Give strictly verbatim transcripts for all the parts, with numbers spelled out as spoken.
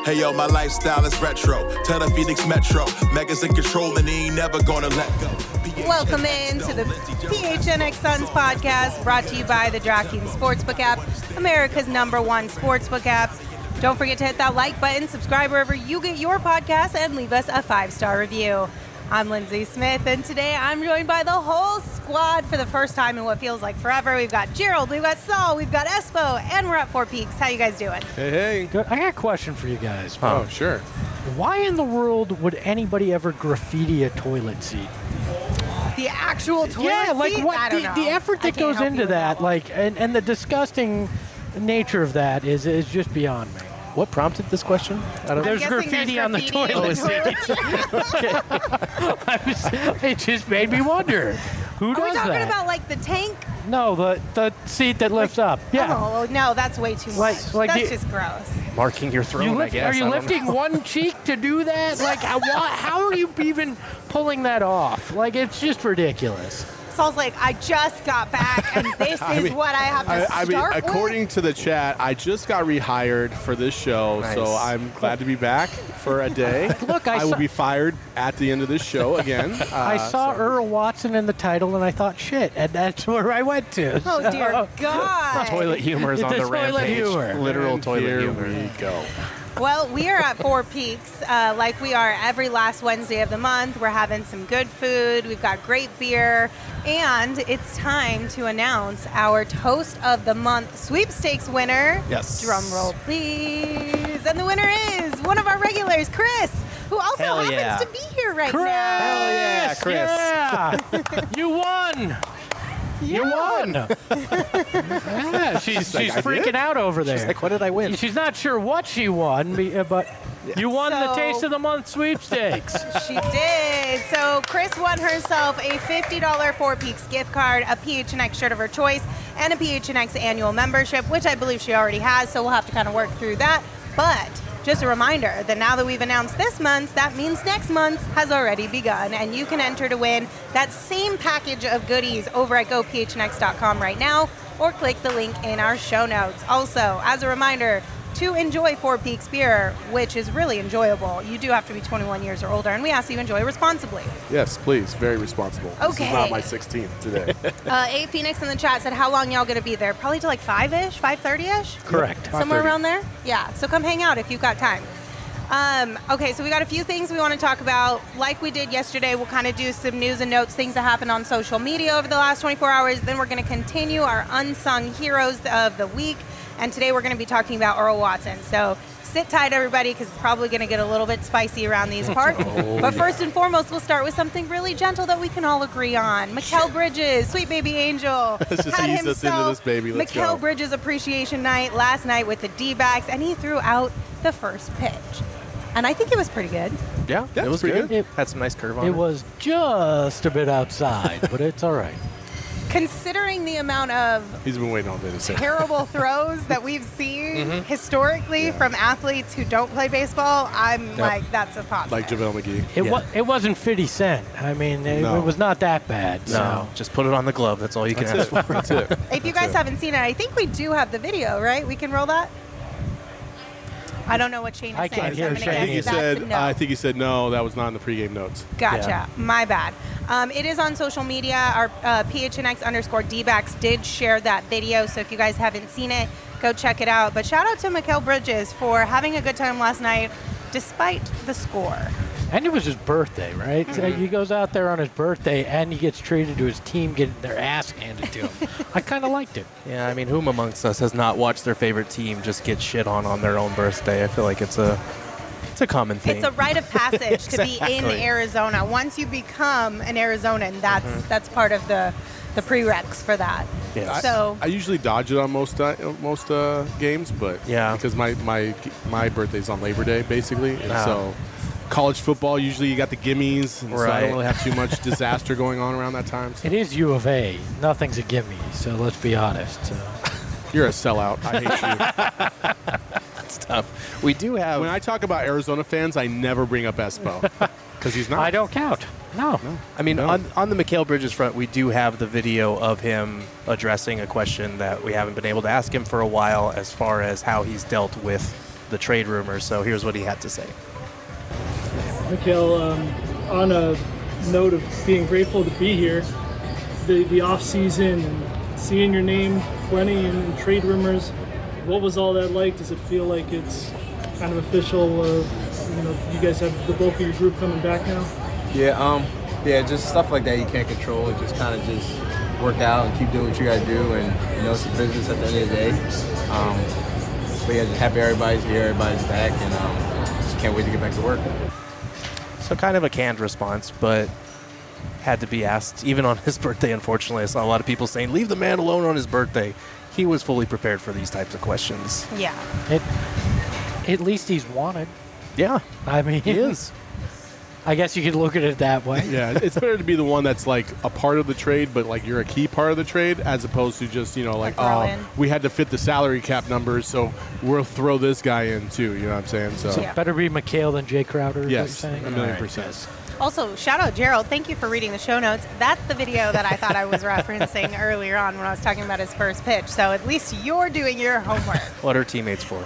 Hey yo, my lifestyle is retro. Tell the Phoenix Metro. Megas in control and he ain't never gonna let go. Welcome in to the P H N X Suns podcast, brought to you by the DraftKings Sportsbook app, America's number one sportsbook app. Don't forget to hit that like button, subscribe wherever you get your podcast, and leave us a five-star review. I'm Lindsay Smith, and today I'm joined by the whole squad for the first time in what feels like forever. We've got Gerald, we've got Saul, we've got Espo, and we're at Four Peaks. How you guys doing? Hey, hey. Good. I got a question for you guys. Oh, um, sure. Why in the world would anybody ever graffiti a toilet seat? The actual toilet yeah, like seat? what I don't the, know. the effort that goes into that, that like, and, and the disgusting nature of that is is just beyond me. What prompted this question? I don't there's, graffiti there's on the graffiti toilet seat. Okay. It just made me wonder. Who Are does we talking that? about like the tank? No, the the seat that lifts up. Yeah. Oh, no, that's way too much. Like- like that's the- just gross. Marking your throne, You I lift, guess. are you I don't lifting know. one cheek to do that? Like, how, how are you even pulling that off? Like, it's just ridiculous. Saul's like, I just got back, and this I is mean, what I have to I, I start mean, with. according to the chat, I just got rehired for this show, Nice. so I'm glad to be back for a day. Look, I will saw- be fired at the end of this show again. Uh, I saw so- Earl Watson in the title, and I thought, shit, and that's where I went to. Oh, So- dear God. Toilet humor is on The the, toilet rampage. humor. Literal And toilet here humor. we go. Well, we are at Four Peaks, uh, like we are every last Wednesday of the month. We're having some good food. We've got great beer. And it's time to announce our Toast of the Month sweepstakes winner. Yes. Drum roll, please. And the winner is one of our regulars, Chris, who also Hell happens yeah. to be here right Chris! now. Hell yeah, Chris. Yeah. You won. You won. Yeah, she's, like, she's I freaking did? out over there. She's like, what did I win? She's not sure what she won, be- uh, but you won the So- Taste of the Month sweepstakes. She did. So Chris won herself a fifty dollars Four Peaks gift card, a P H N X shirt of her choice, and a P H N X annual membership, which I believe she already has, so we'll have to kind of work through that. But just a reminder that now that we've announced this month's, that means next month's has already begun, and you can enter to win that same package of goodies over at go p h n x dot com right now, or click the link in our show notes. Also, as a reminder, to enjoy Four Peaks beer, which is really enjoyable, you do have to be twenty-one years or older, and we ask you enjoy responsibly. Yes, please. Very responsible. This Okay. is not my sixteenth today. Uh, A Phoenix in the chat said, how long y'all going to be there? Probably till like five-ish, five thirty-ish? Correct. Somewhere around there? Yeah, so come hang out if you've got time. Um, okay, so we got a few things we want to talk about. Like we did yesterday, we'll kind of do some news and notes, things that happened on social media over the last twenty-four hours. Then we're going to continue our unsung heroes of the week. And today we're going to be talking about Earl Watson. So sit tight, everybody, because it's probably going to get a little bit spicy around these parts. Oh, but yeah. first and foremost, we'll start with something really gentle that we can all agree on. Mikal Bridges, sweet baby angel. Let's just had ease us into himself this, baby. Let's Mikal go. Bridges appreciation night last night with the D-backs, and he threw out the first pitch. And I think it was pretty good. Yeah, Yeah, it was pretty good. good. It- Had some nice curve on it. It was just a bit outside, but it's all right. Considering the amount of He's been waiting all day to say. terrible throws that we've seen Mm-hmm. historically from athletes who don't play baseball, I'm like, that's a positive. Like JaVale McGee. It, Yeah. wa- it wasn't fifty cent. I mean, it, No. it was not that bad. So. No, just put it on the glove. That's all you can That's ask it. for. That's it. If you guys it. haven't seen it, I think we do have the video, right? We can roll that? I don't know what Shane is I saying. can't so hear I'm I gonna Shane. think he guess that's said. a no. I think he said no. That was not in the pregame notes. Gotcha. Yeah. My bad. Um, it is on social media. Our uh, P H N X underscore D-backs did share that video, so if you guys haven't seen it, go check it out. But shout out to Mikal Bridges for having a good time last night, despite the score. And it was his birthday, right? So Mm-hmm. he goes out there on his birthday, and he gets treated to his team getting their ass handed to him. I kind of liked it. Yeah, I mean, whom amongst us has not watched their favorite team just get shit on on their own birthday? I feel like it's a it's a common thing. It's a rite of passage to be in Exactly. Arizona. Once you become an Arizonan, that's that's part of the the prereqs for that. Yeah. I, So- I usually dodge it on most uh, most uh, games, but Yeah. because my my my birthday's on Labor Day basically, and Ah. so college football usually you got the gimmies, and so I Right. don't really have too much disaster going on around that time. So It is U of A. Nothing's a gimme, so let's be honest. So. you're a sellout. I hate you. It's tough. We do have. When I talk about Arizona fans, I never bring up Espo because he's not. I don't count. No. I mean, No. on, on the Mikal Bridges front, we do have the video of him addressing a question that we haven't been able to ask him for a while as far as how he's dealt with the trade rumors. So here's what he had to say. Mikhail, um, on a note of being grateful to be here, the, the off season and seeing your name plenty in, in trade rumors, what was all that like? Does it feel like it's kind of official? Uh, you know, you guys have the bulk of your group coming back now? Yeah, um, yeah, just stuff like that you can't control. It just kind of just work out and keep doing what you got to do, and you know it's a business at the end of the day. Um, but yeah, just happy everybody's here, everybody's back, and um, just can't wait to get back to work. So kind of a canned response, but had to be asked. Even on his birthday, unfortunately, I saw a lot of people saying, leave the man alone on his birthday. He was fully prepared for these types of questions. Yeah. It, at least he's wanted. Yeah. I mean, he is. I guess you could look at it that way. Yeah, it's better to be the one that's like a part of the trade, but like you're a key part of the trade, as opposed to just, you know, like, throw oh, in. we had to fit the salary cap numbers, so we'll throw this guy in too. You know what I'm saying? So Yeah. Better be Mikhail than Jay Crowder. Is yes, what a you're saying? million All right, percent. guys. Also, shout out Gerald. Thank you for reading the show notes. That's the video that I thought I was referencing earlier on when I was talking about his first pitch. So at least you're doing your homework. What are teammates for?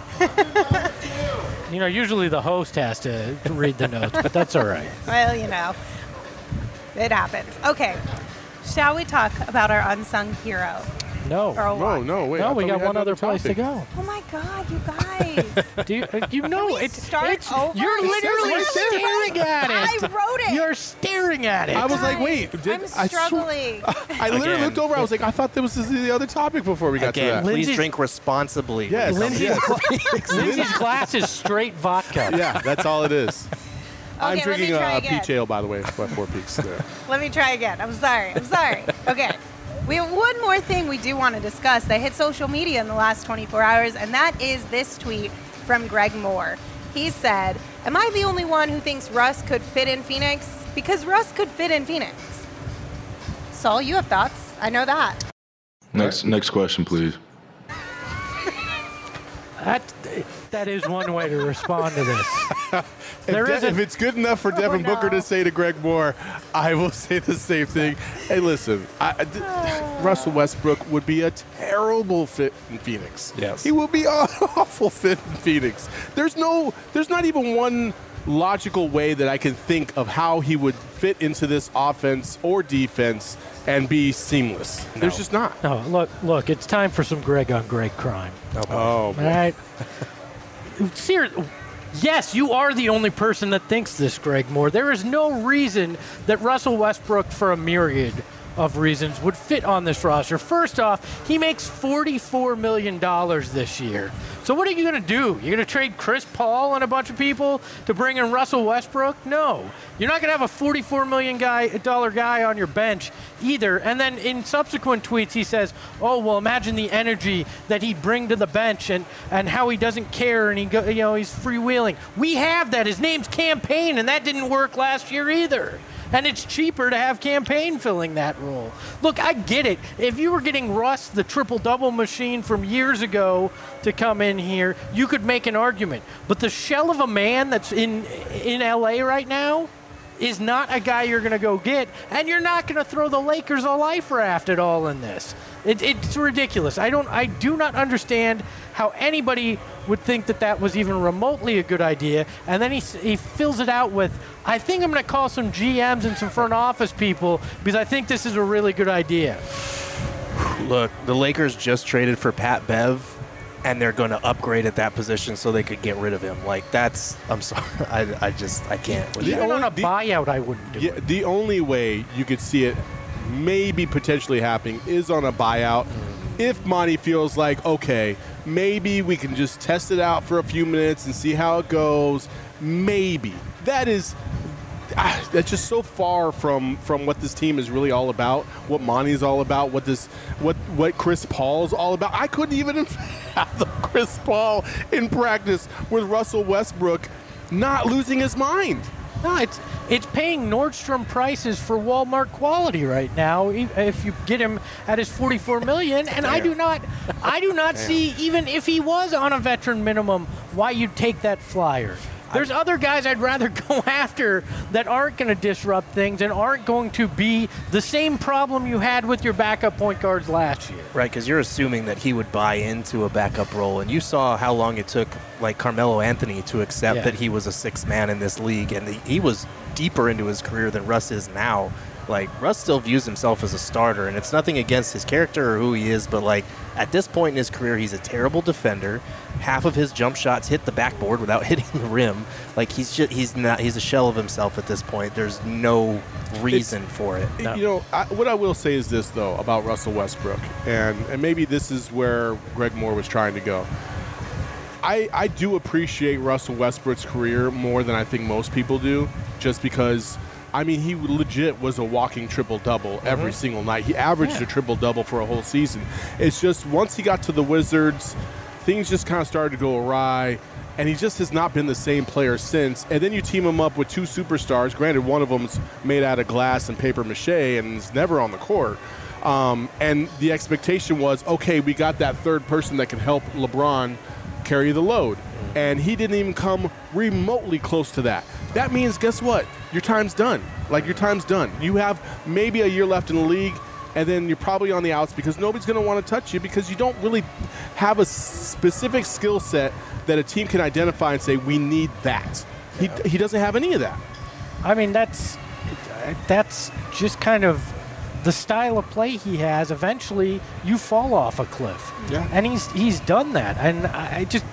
You know, usually the host has to read the notes, but that's all right. Well, you know, it happens. Okay, shall we talk about our unsung hero? No. Earl No, Watson? no, wait. I no, we thought got had one other another place to topic. go. Oh my God, you guys! Do you, uh, you know, we it's, start it's over? you're It says literally right there. staring at it. I wrote it. You're staring at it. I was like, wait, Guys, did I'm I sw- struggling. I literally Again. looked over. I was like, I thought there was this the other topic before we got Again, to that. please Lindsay's- drink responsibly. Yes, Lindsay's, yes. Lindsay's glass is straight vodka. Yeah, that's all it is. I'm Okay, let me drinking try uh, again. peach ale, by the way, by Four Peaks. There. Let me try again. I'm sorry. I'm sorry. Okay. We have one more thing we do want to discuss that hit social media in the last twenty-four hours, and that is this tweet from Greg Moore. He said, am I the only one who thinks Russ could fit in Phoenix? Because Russ could fit in Phoenix. Saul, you have thoughts. I know that. Next, next question, please. That, that is one way to respond to this. If, There De- is a- if it's good enough for Devin no. Booker to say to Greg Moore, I will say the same thing. Hey, listen, I, I- th- Russell Westbrook would be a terrible fit in Phoenix. Yes. He would be an awful fit in Phoenix. There's no, there's not even one logical way that I can think of how he would fit into this offense or defense and be seamless. There's just not. No, look, look, it's time for some Greg on Greg crime. Oh, All right. Seriously. Yes, you are the only person that thinks this, Greg Moore. There is no reason that Russell Westbrook, for a myriad of reasons, would fit on this roster. First off, he makes forty-four million dollars this year. So what are you going to do? You're going to trade Chris Paul and a bunch of people to bring in Russell Westbrook? No. You're not going to have a forty-four million dollar guy on your bench either. And then in subsequent tweets, he says, oh, well, imagine the energy that he'd bring to the bench and, and how he doesn't care and he go, you know, he's freewheeling. We have that. His name's Campaign, and that didn't work last year either. And it's cheaper to have Campaign filling that role. Look, I get it. If you were getting Russ, the triple-double machine from years ago, to come in here, you could make an argument. But the shell of a man that's in in L A right now is not a guy you're going to go get, and you're not going to throw the Lakers a life raft at all in this. It, it's ridiculous. I don't. I do not understand how anybody would think that that was even remotely a good idea. And then he he fills it out with, I think I'm going to call some G Ms and some front office people because I think this is a really good idea. Look, the Lakers just traded for Pat Bev, and they're going to upgrade at that position so they could get rid of him. Like, that's, I'm sorry. I, I just, I can't. with The that. Even only- on a the- buyout, I wouldn't do Yeah, it. the only way you could see it maybe potentially happening is on a buyout. If Monty feels like, okay, maybe we can just test it out for a few minutes and see how it goes. Maybe. That is, ah, that's just so far from, from what this team is really all about, what Monty's all about, what this, what, what Chris Paul's all about. I couldn't even fathom Chris Paul in practice with Russell Westbrook not losing his mind. No, it's it's paying Nordstrom prices for Walmart quality right now. e- If you get him at his forty-four million, and I do not, I do not see even if he was on a veteran minimum, why you'd take that flyer. There's other guys I'd rather go after that aren't going to disrupt things and aren't going to be the same problem you had with your backup point guards last year. Right, because you're assuming that he would buy into a backup role, and you saw how long it took, like Carmelo Anthony, to accept Yeah. that he was a sixth man in this league, and the, he was deeper into his career than Russ is now. Like, Russ still views himself as a starter, and it's nothing against his character or who he is, but, like, at this point in his career, he's a terrible defender. Half of his jump shots hit the backboard without hitting the rim. Like, he's just, he's not he's a shell of himself at this point. There's no reason It's, for it. You know, I, what I will say is this, though, about Russell Westbrook, and, and maybe this is where Greg Moore was trying to go. I, I do appreciate Russell Westbrook's career more than I think most people do, just because, I mean, he legit was a walking triple-double mm-hmm. every single night. He averaged yeah. a triple-double for a whole season. It's just once he got to the Wizards, things just kind of started to go awry, and he just has not been the same player since. And then you team him up with two superstars. Granted, one of them's made out of glass and paper mache and is never on the court. Um, and the expectation was, okay, we got that third person that can help LeBron carry the load. And he didn't even come remotely close to that. That means, guess what? Your time's done. Like, your time's done. You have maybe a year left in the league, and then you're probably on the outs because nobody's going to want to touch you because you don't really have a specific skill set that a team can identify and say, we need that. He, he doesn't have any of that. I mean, that's that's just kind of the style of play he has. Eventually, you fall off a cliff. Yeah. And he's he's done that. And I just,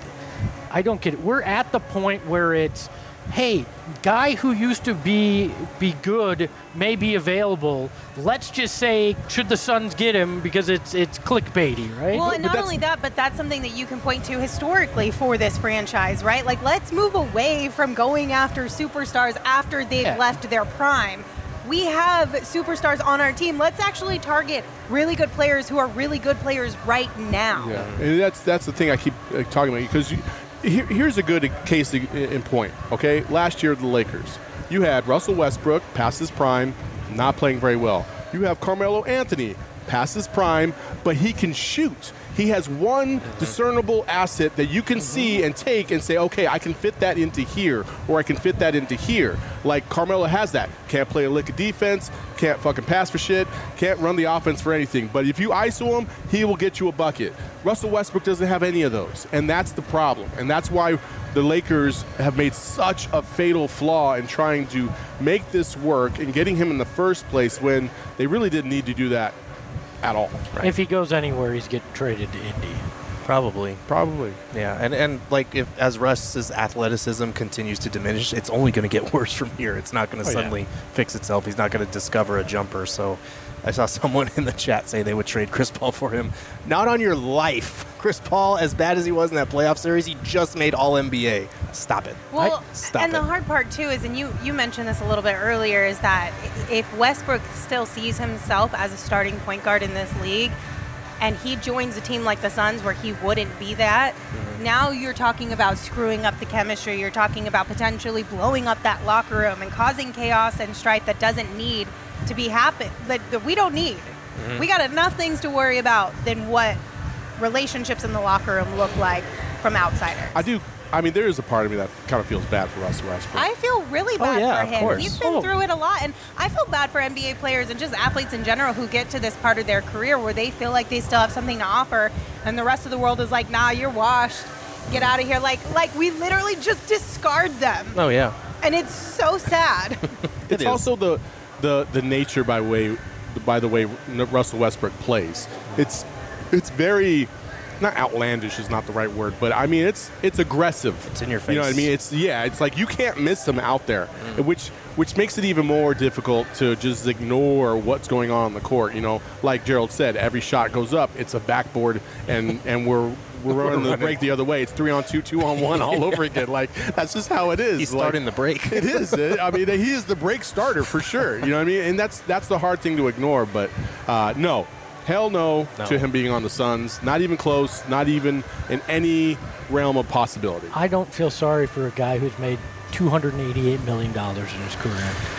I don't get it. We're at the point where it's, hey, guy who used to be be good may be available. Let's just say, should the Suns get him, because it's it's clickbaity, right? Well, and not only that, but that's something that you can point to historically for this franchise, right? Like, let's move away from going after superstars after they've Yeah. left their prime. We have superstars on our team. Let's actually target really good players who are really good players right now. Yeah, and that's that's the thing I keep uh, talking about, because you, here, here's a good case in in point, okay? Last year, the Lakers, you had Russell Westbrook, past his prime, not playing very well. You have Carmelo Anthony, past his prime, but he can shoot. He has one discernible asset that you can see and take and say, okay, I can fit that into here, or I can fit that into here. Like Carmelo has that. Can't play a lick of defense, can't fucking pass for shit, can't run the offense for anything. But if you I S O him, he will get you a bucket. Russell Westbrook doesn't have any of those, and that's the problem. And that's why the Lakers have made such a fatal flaw in trying to make this work and getting him in the first place when they really didn't need to do that at all. Right. If he goes anywhere, he's getting traded to Indy. Probably. Probably. Yeah, and, and like if as Russ's athleticism continues to diminish, it's only going to get worse from here. It's not going to Oh, yeah. suddenly fix itself. He's not going to discover a jumper. So I saw someone in the chat say they would trade Chris Paul for him. Not on your life. Chris Paul, as bad as he was in that playoff series, he just made All N B A. Stop it. Well, Stop and it. the hard part, too, is, and you, you mentioned this a little bit earlier, is that if Westbrook still sees himself as a starting point guard in this league, and he joins a team like the Suns where he wouldn't be that, mm-hmm. now you're talking about screwing up the chemistry. You're talking about potentially blowing up that locker room and causing chaos and strife that doesn't need to be happen, that, that we don't need. Mm-hmm. We got enough things to worry about than what relationships in the locker room look like from outsiders. I do. I mean, there is a part of me that kind of feels bad for Russell Westbrook. I feel really bad yeah, for of him. course. He's been Oh. through it a lot, and I feel bad for N B A players and just athletes in general who get to this part of their career where they feel like they still have something to offer, and the rest of the world is like, nah, you're washed. Get out of here. Like, like we literally just discard them, Oh, yeah. and it's so sad. It's is. also the, the the nature by way by the way Russell Westbrook plays. It's it's very not outlandish is not the right word, but I mean it's it's aggressive. It's in your You know what I face. mean? It's yeah. It's like you can't miss him out there, which which makes it even more difficult to just ignore what's going on on the court. You know, like Gerald said, every shot goes up. It's a backboard, and and we're. We're running the break the other way. It's three on two, two on one, all over again. Like that's just how it is. He's Like, starting the break. It is. It, I mean, he is the break starter for sure. You know what I mean? And that's that's the hard thing to ignore. But uh, no, hell no, No. to him being on the Suns. Not even close. Not even in any realm of possibility. I don't feel sorry for a guy who's made two hundred eighty-eight million dollars in his career.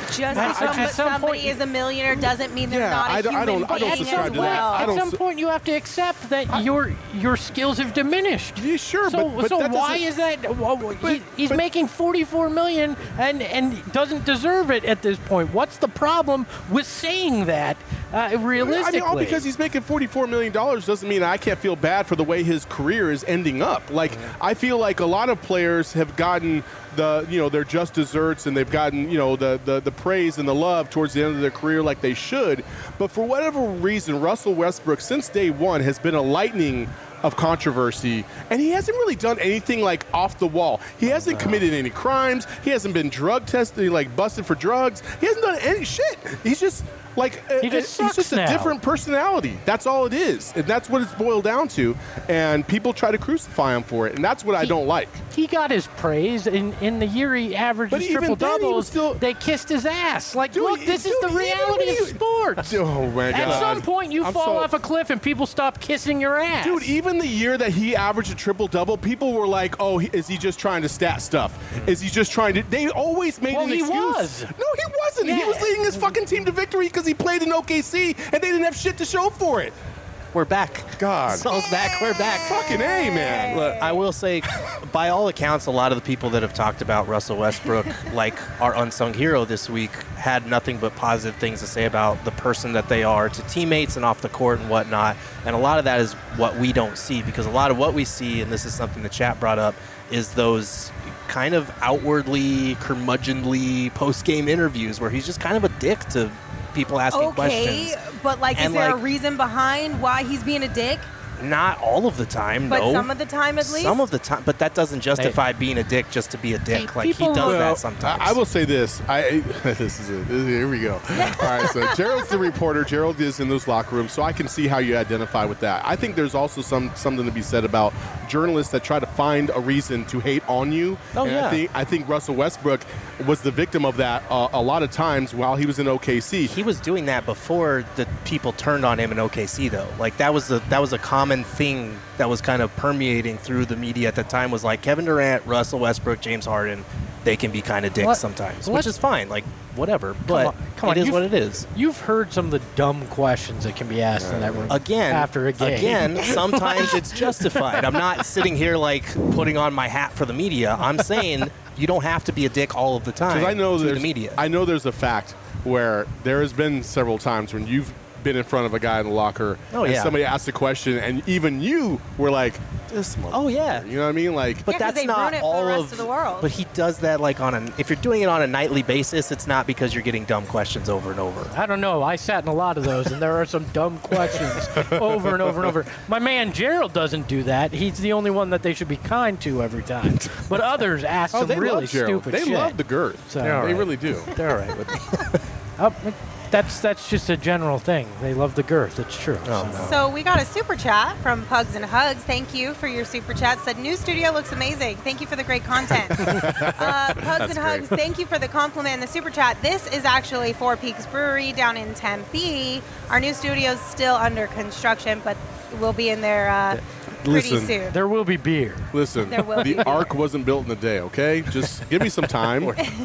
Just I- because at some, some somebody point- is a millionaire doesn't mean they're Yeah, not a I don't- I human don't- I don't being subscribe as to that. well. I At don't some su- point, you have to accept that your your skills have diminished. Yeah, sure, So, but, but so that why doesn't- is that? Well, he, But- he's but- making forty-four million and and doesn't deserve it at this point. What's the problem with saying that? Uh, realistically, I mean, all because he's making forty-four million dollars doesn't mean I can't feel bad for the way his career is ending up. Like, I feel like a lot of players have gotten the, you know, their just desserts, and they've gotten, you know, the, the, the praise and the love towards the end of their career like they should. But for whatever reason, Russell Westbrook, since day one, has been a lightning of controversy, and he hasn't really done anything like off the wall. He hasn't committed any crimes. He hasn't been drug tested, like busted for drugs. He hasn't done any shit. He's just like He uh, just he's sucks just a now. different personality. That's all it is, and that's what it's boiled down to. And people try to crucify him for it, and that's what I He- don't like. he got his praise in in the year he averages But even triple then, he was doubles. still- They kissed his ass. Like, Dude, look, this dude, is the even reality when of you- sports. Oh my At god! some point, you I'm fall so- off a cliff and people stop kissing your ass. Dude, even the year that he averaged a triple double, people were like, "Oh, he, is he just trying to stat stuff? Is he just trying to?" They always made Well, an he excuse. was. No, he wasn't. He Yeah. was leading his fucking team to victory because he played in O K C and they didn't have shit to show for it. We're back. God. Saul's back. We're back. Fucking A, man. Look, I will say, by all accounts, a lot of the people that have talked about Russell Westbrook, like our unsung hero this week, had nothing but positive things to say about the person that they are to teammates and off the court and whatnot. And a lot of that is what we don't see, because a lot of what we see, and this is something the chat brought up, is those kind of outwardly curmudgeonly post-game interviews where he's just kind of a dick to people asking Okay, questions. but like, is And, there a like- reason behind why he's being a dick? Not all of the time, But no. some of the time, at least. Some of the time, but that doesn't justify being a dick just to be a dick. Hey, Like, he people- does Well, that sometimes. I, I will say this. I this is it. This is- here we go. All right, so Gerald's the reporter. Gerald is in those locker rooms, so I can see how you identify with that. I think there's also some something to be said about journalists that try to find a reason to hate on you. Oh, and yeah. I think I think Russell Westbrook was the victim of that uh, a lot of times while he was in O K C. He was doing that before the people turned on him in O K C, though. Like, that was the that was a common thing that was kind of permeating through the media at the time. Was like Kevin Durant, Russell Westbrook, James Harden. They can be kind of dicks What- sometimes, what- which is fine. Like, whatever. But on, come on, it is you've- what it is. You've heard some of the dumb questions that can be asked in that room. Again, after a game. again, sometimes it's justified. I'm not sitting here like putting on my hat for the media. I'm saying you don't have to be a dick all of the time. Because I know to there's the media. I know there's a fact where there has been several times when you've been in front of a guy in the locker Oh, and yeah. somebody asked a question and even you were like, this motherfucker. Oh, yeah. You know what I mean? Like, But Yeah, 'cause that's they not ruin it for all the rest of, of the world. But he does that like on an. If you're doing it on a nightly basis, it's not because you're getting dumb questions over and over. I don't know. I sat in a lot of those, and there are some dumb questions over and over and over. My man Gerald doesn't do that. He's the only one that they should be kind to every time. But others ask oh, some they really love Gerald. stupid They shit. love the girth. So- they All right. really do. They're all right with me. Oh, that's that's just a general thing. They love the girth. It's true. Oh, So- no. So we got a super chat from Pugs and Hugs. Thank you for your super chat. Said new studio looks amazing. Thank you for the great content. uh, Pugs and Hugs, thank you for the compliment and the super chat. This is actually Four Peaks Brewery down in Tempe. Our new studio is still under construction, but we'll be in there uh, pretty Listen, soon. There will be beer. Listen, There will be the beer. arc wasn't built in a day, okay? Just give me some time.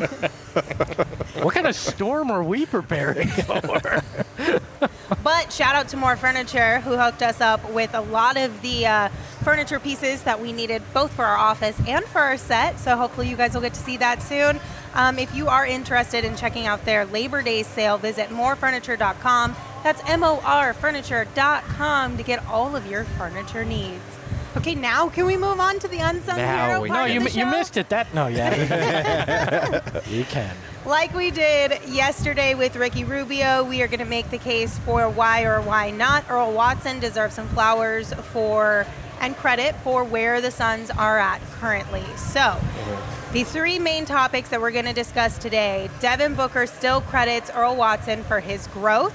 What kind of storm are we preparing for? But shout out to More Furniture, who hooked us up with a lot of the uh, furniture pieces that we needed both for our office and for our set. So hopefully you guys will get to see that soon. Um, if you are interested in checking out their Labor Day sale, visit more furniture dot com. That's M O R furniture dot com to get all of your furniture needs. Okay, now can we move on to the unsung Now hero we part No, of you the mi- you show? missed it. That no, yeah. You can. Like we did yesterday with Ricky Rubio, we are going to make the case for why or why not Earl Watson deserves some flowers for and credit for where the Suns are at currently. So, the three main topics that we're going to discuss today: Devin Booker still credits Earl Watson for his growth.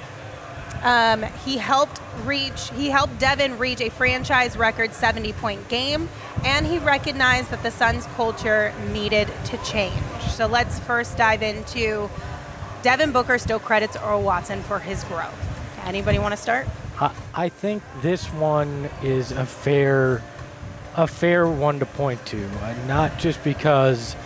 Um, he helped reach, he helped Devin reach a franchise record seventy point game, and he recognized that the Suns culture needed to change. So let's first dive into Devin Booker still credits Earl Watson for his growth. Anybody want to start? I, I think this one is a fair, a fair one to point to, uh, not just because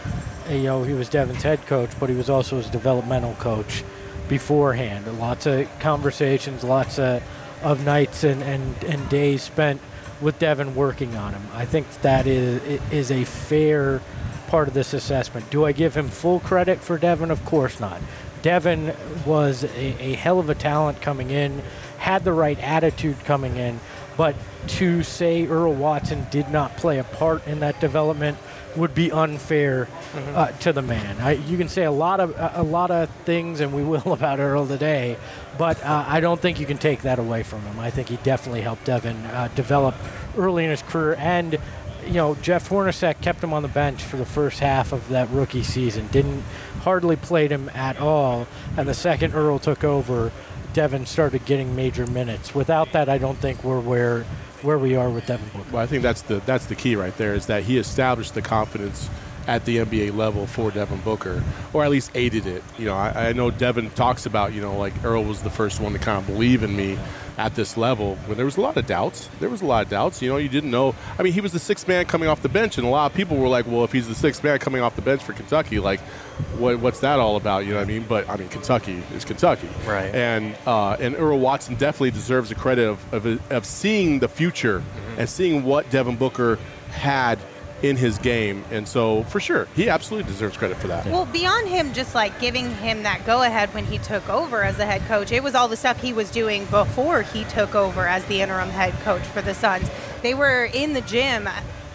you know, he was Devon's head coach, but he was also his developmental coach beforehand. Lots of conversations, lots of, of nights and, and, and days spent with Devon working on him. I think that is is a fair part of this assessment. Do I give him full credit for Devon? Of course not. Devon was a, a hell of a talent coming in, had the right attitude coming in, but to say Earl Watson did not play a part in that development would be unfair mm-hmm. uh, to the man. I, you can say a lot of a lot of things, and we will about Earl today, but uh, I don't think you can take that away from him. I think he definitely helped Devon uh, develop early in his career, and you know Jeff Hornacek kept him on the bench for the first half of that rookie season. Didn't hardly played him at all, and the second Earl took over, Devon started getting major minutes. Without that, I don't think we're where. where we are with Devin Booker. Well, I think that's the that's the key right there, is that he established the confidence at the N B A level for Devin Booker, or at least aided it. You know, I, I know Devin talks about, you know, like Earl was the first one to kind of believe in me at this level, when there was a lot of doubts. There was a lot of doubts. You know, you didn't know. I mean, he was the sixth man coming off the bench, and a lot of people were like, well, if he's the sixth man coming off the bench for Kentucky, like, what, what's that all about? You know what I mean? But, I mean, Kentucky is Kentucky. Right. And uh, and Earl Watson definitely deserves the credit of, of, of seeing the future mm-hmm. and seeing what Devin Booker had in his game. And so, for sure, he absolutely deserves credit for that. Well, beyond him just like giving him that go-ahead when he took over as the head coach, it was all the stuff he was doing before he took over as the interim head coach for the Suns. They were in the gym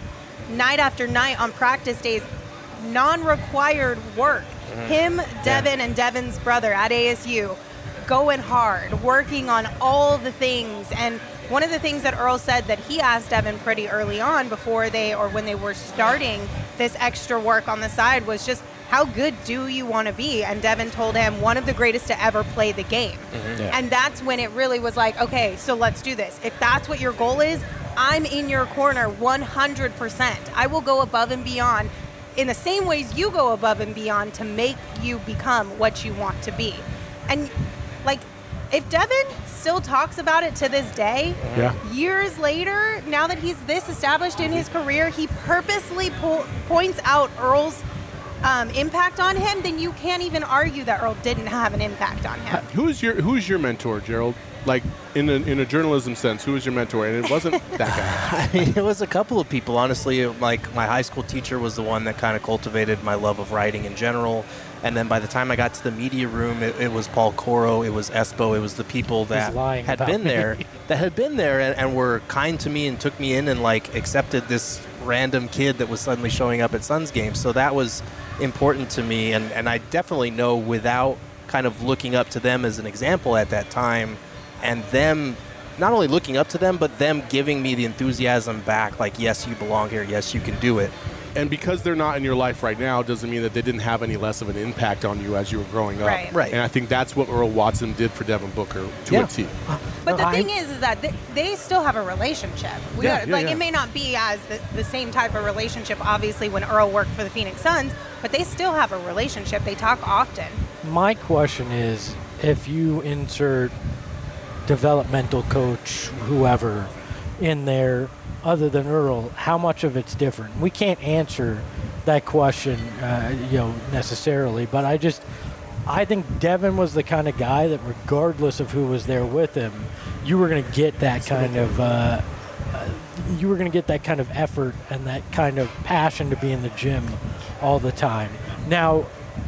night after night on practice days, non-required work. Mm-hmm. Him, Devin, yeah. and Devin's brother at A S U going hard, working on all the things. And one of the things that Earl said that he asked Devin pretty early on before they, or when they were starting this extra work on the side, was just, how good do you want to be? And Devin told him, one of the greatest to ever play the game. Mm-hmm. Yeah. And that's when it really was like, okay, so let's do this. If that's what your goal is, I'm in your corner one hundred percent. I will go above and beyond in the same ways you go above and beyond to make you become what you want to be. And like, if Devin still talks about it to this day, yeah. years later, now that he's this established in his career, he purposely po- points out Earl's um, impact on him, then you can't even argue that Earl didn't have an impact on him. Who's your Who's your mentor, Gerald? Like, in a, in a journalism sense, who was your mentor? And it wasn't that guy. I mean, it was a couple of people, honestly. Like, my high school teacher was the one that kind of cultivated my love of writing in general. And then by the time I got to the media room, it, it was Paul Coro, it was Espo, it was the people that had been there, that had been there and, and were kind to me and took me in and, like, accepted this random kid that was suddenly showing up at Suns games. So that was important to me. And, and I definitely know, without kind of looking up to them as an example at that time, and them not only looking up to them, but them giving me the enthusiasm back, like, yes, you belong here, yes, you can do it. And because they're not in your life right now doesn't mean that they didn't have any less of an impact on you as you were growing up. Right. Right. And I think that's what Earl Watson did for Devin Booker to Yeah. a T. But the I- thing is, is that they, they still have a relationship. We Yeah, gotta, yeah, like yeah. it may not be as the, the same type of relationship, obviously, when Earl worked for the Phoenix Suns, but they still have a relationship. They talk often. My question is, if you insert developmental coach, whoever, in there other than Earl, how much of it's different? We can't answer that question, uh, you know, necessarily, but I just, I think Devin was the kind of guy that, regardless of who was there with him, you were going to get that kind of, uh, uh, you were going to get that kind of effort and that kind of passion to be in the gym all the time. Now,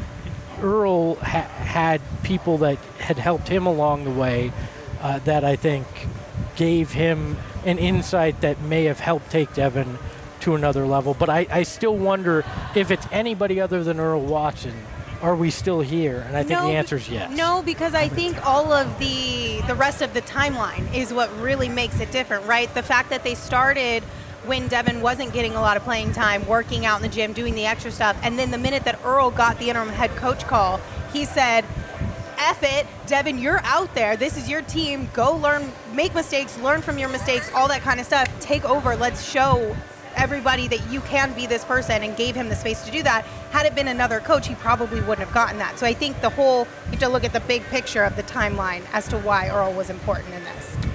Earl ha- had people that had helped him along the way uh, that I think gave him an insight that may have helped take Devin to another level. But I, I still wonder if it's anybody other than Earl Watson, are we still here? And I think No, the answer is yes. No, because I think all of the the rest of the timeline is what really makes it different, right? The fact that they started when Devin wasn't getting a lot of playing time, working out in the gym, doing the extra stuff, and then the minute that Earl got the interim head coach call, he said, F it, Devin, you're out there. This is your team. Go learn, make mistakes, learn from your mistakes, all that kind of stuff. Take over. Let's show everybody that you can be this person, and gave him the space to do that. Had it been another coach, he probably wouldn't have gotten that. So I think the whole, you have to look at the big picture of the timeline as to why Earl was important in this.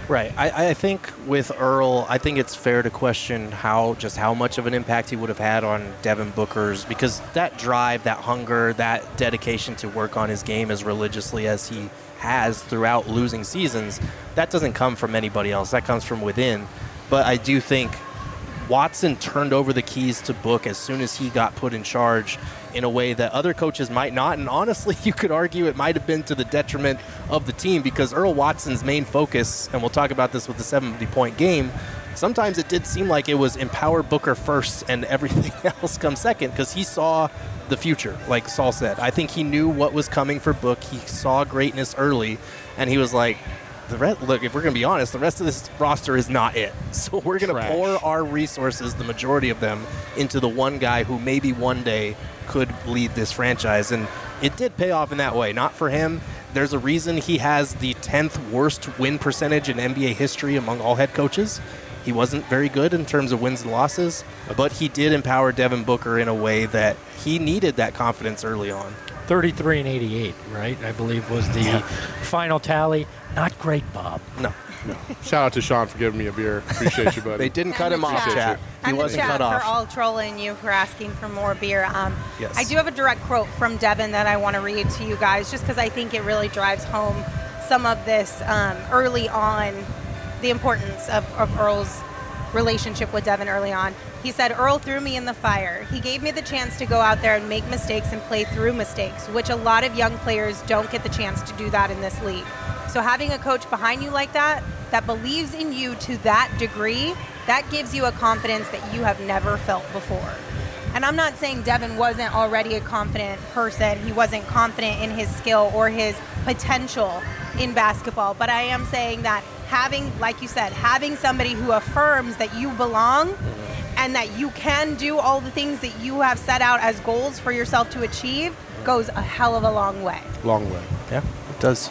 Right. I, I think with Earl, I think it's fair to question how just how much of an impact he would have had on Devin Booker's, because that drive, that hunger, that dedication to work on his game as religiously as he has throughout losing seasons, that doesn't come from anybody else. That comes from within. But I do think Watson turned over the keys to Book as soon as he got put in charge in a way that other coaches might not. And honestly, you could argue it might have been to the detriment of the team, because Earl Watson's main focus, and we'll talk about this with the seventy-point game, sometimes it did seem like it was empower Booker first and everything else comes second, because he saw the future, like Saul said. I think he knew what was coming for Book. He saw greatness early, and he was like, The rest, look, if we're going to be honest, the rest of this roster is not it. So we're going to pour our resources, the majority of them, into the one guy who maybe one day could lead this franchise. And it did pay off in that way. Not for him. There's a reason he has the tenth worst win percentage in N B A history among all head coaches. He wasn't very good in terms of wins and losses, but he did empower Devin Booker in a way that he needed that confidence early on. thirty-three and eighty-eight, right? I believe was the yeah. final tally. Not great, Bob. No. No. Shout out to Sean for giving me a beer. Appreciate you, buddy. They didn't cut him off, chat. He and wasn't chat cut off. For all trolling you for asking for more beer. Um, yes. I do have a direct quote from Devin that I want to read to you guys, just because I think it really drives home some of this um, early on, the importance of, of Earl's relationship with Devin early on. He said, Earl threw me in the fire. He gave me the chance to go out there and make mistakes and play through mistakes, which a lot of young players don't get the chance to do that in this league. So having a coach behind you like that, that believes in you to that degree, that gives you a confidence that you have never felt before. And I'm not saying Devin wasn't already a confident person. He wasn't confident in his skill or his potential in basketball. But I am saying that having, like you said, having somebody who affirms that you belong and that you can do all the things that you have set out as goals for yourself to achieve goes a hell of a long way. Long way. Yeah, it does.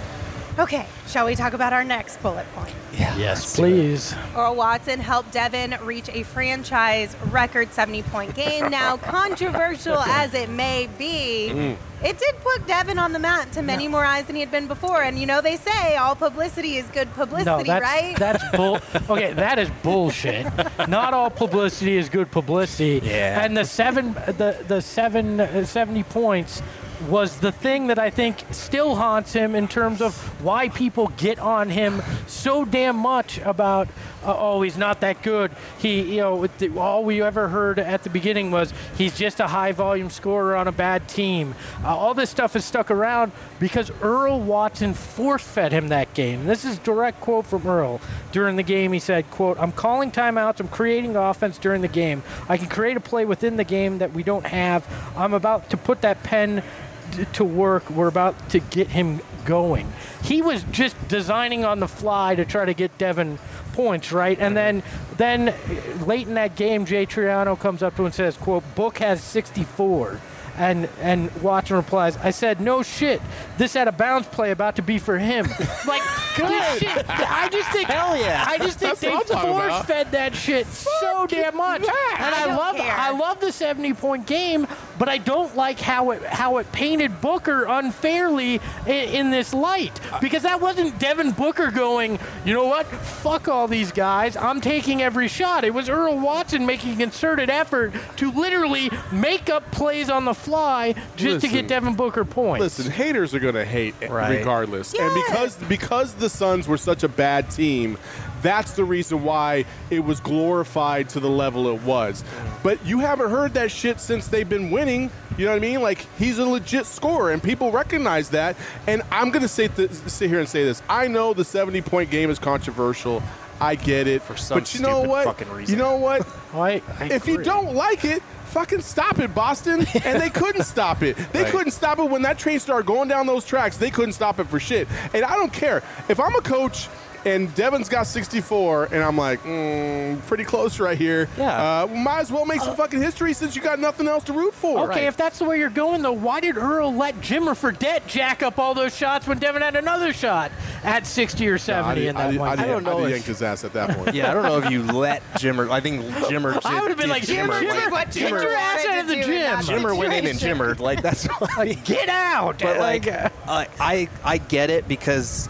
Okay, shall we talk about our next bullet point? Yeah. Yes, please. Earl Watson helped Devin reach a franchise record seventy-point game. Now, controversial as it may be, mm. it did put Devin on the map to many no. more eyes than he had been before. And you know they say all publicity is good publicity, no, that's, right? That's bull. Okay, that is bullshit. Not all publicity is good publicity. Yeah. And the seven, the the seven uh, seventy points was the thing that I think still haunts him in terms of why people get on him so damn much about, uh, oh, he's not that good. He, you know, the, all we ever heard at the beginning was he's just a high-volume scorer on a bad team. Uh, all this stuff is stuck around because Earl Watson force-fed him that game. This is a direct quote from Earl. During the game, he said, quote, I'm calling timeouts. I'm creating offense during the game. I can create a play within the game that we don't have. I'm about to put that pen to work. We're about to get him going. He was just designing on the fly to try to get Devin points, right? And then then late in that game, Jay Triano comes up to him and says, quote, Book has sixty-four. And and Watson replies, I said, no shit. This had a bounce play about to be for him. Like, good shit. I just think, hell yeah. I just think they force fed that shit so damn much. Yeah, and I, I love care. I love the seventy point game, but I don't like how it how it painted Booker unfairly in, in this light. Because that wasn't Devin Booker going, you know what? Fuck all these guys. I'm taking every shot. It was Earl Watson making a concerted effort to literally make up plays on the fly just listen, to get Devin Booker points. Listen, haters are going to hate right. regardless. Yes. And because because the Suns were such a bad team, that's the reason why it was glorified to the level it was. But you haven't heard that shit since they've been winning. You know what I mean? Like, he's a legit scorer, and people recognize that. And I'm going to say th- sit here and say this. I know the seventy-point game is controversial. I get it. For some but you know stupid what? fucking reason. You know what? I, I If you agree. don't like it, fucking stop it, Boston. And they couldn't stop it. They Right. couldn't stop it when that train started going down those tracks. They couldn't stop it for shit. And I don't care. If I'm a coach and Devin's got sixty-four, and I'm like, mm, pretty close right here. Yeah. Uh, might as well make some fucking history since you got nothing else to root for. Okay, Right. if that's the way you're going, though, why did Earl let Jimmer Fredette jack up all those shots when Devin had another shot at sixty or seventy I, in that I, one? I, I, I don't know I if- yanked his ass at that point. Yeah, I don't know if you let Jimmer. I think Jimmer. I would have been did like, Jimmer, Jimmer, Jimmer, like, get your ass out of the gym. Jimmer went in and Jimmered. Like, that's why. Like, get out. But like, uh, uh, I I get it because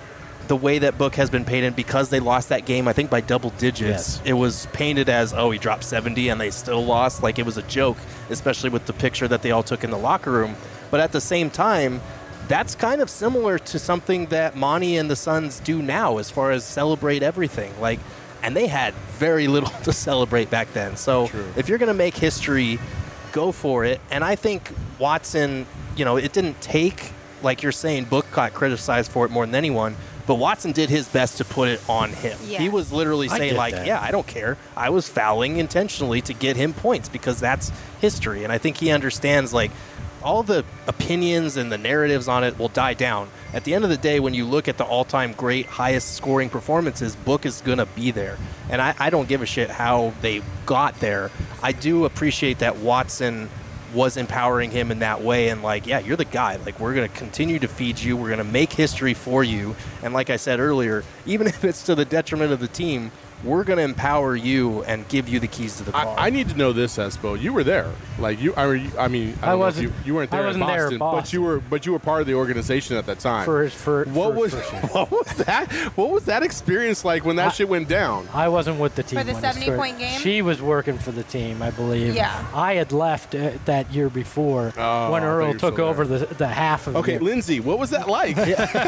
the way that Book has been painted, because they lost that game, I think by double digits, Yes. it was painted as, oh, he dropped seventy and they still lost. Like, it was a joke, especially with the picture that they all took in the locker room. But at the same time, that's kind of similar to something that Monty and the Suns do now as far as celebrate everything. Like, and they had very little to celebrate back then. So True. if you're going to make history, go for it. And I think Watson, you know, it didn't take, like you're saying, Book got criticized for it more than anyone, but Watson did his best to put it on him. Yes. He was literally I saying, get like, that. yeah, I don't care. I was fouling intentionally to get him points because that's history. And I think he understands, like, all the opinions and the narratives on it will die down. At the end of the day, when you look at the all-time great, highest scoring performances, Book is going to be there. And I, I don't give a shit how they got there. I do appreciate that Watson was empowering him in that way and like, yeah, you're the guy. Like, we're going to continue to feed you. We're going to make history for you. And like I said earlier, even if it's to the detriment of the team, we're going to empower you and give you the keys to the car. I, I need to know this, Espo. You were there, like you. I, mean- I mean, I, I don't know if wasn't- You, you weren't I there wasn't in there Boston, at but Boston. you were. But you were part of the organization at that time. For for what for- was for sure. what was that? What was that experience like when that I- shit went down? I wasn't with the team. For the when it started. seventy-point game? She was working for the team, I believe. Yeah. I had left uh, that year before Oh, when I thought you Earl were took still over the, the half of Okay, it. Lindsay, what was that like?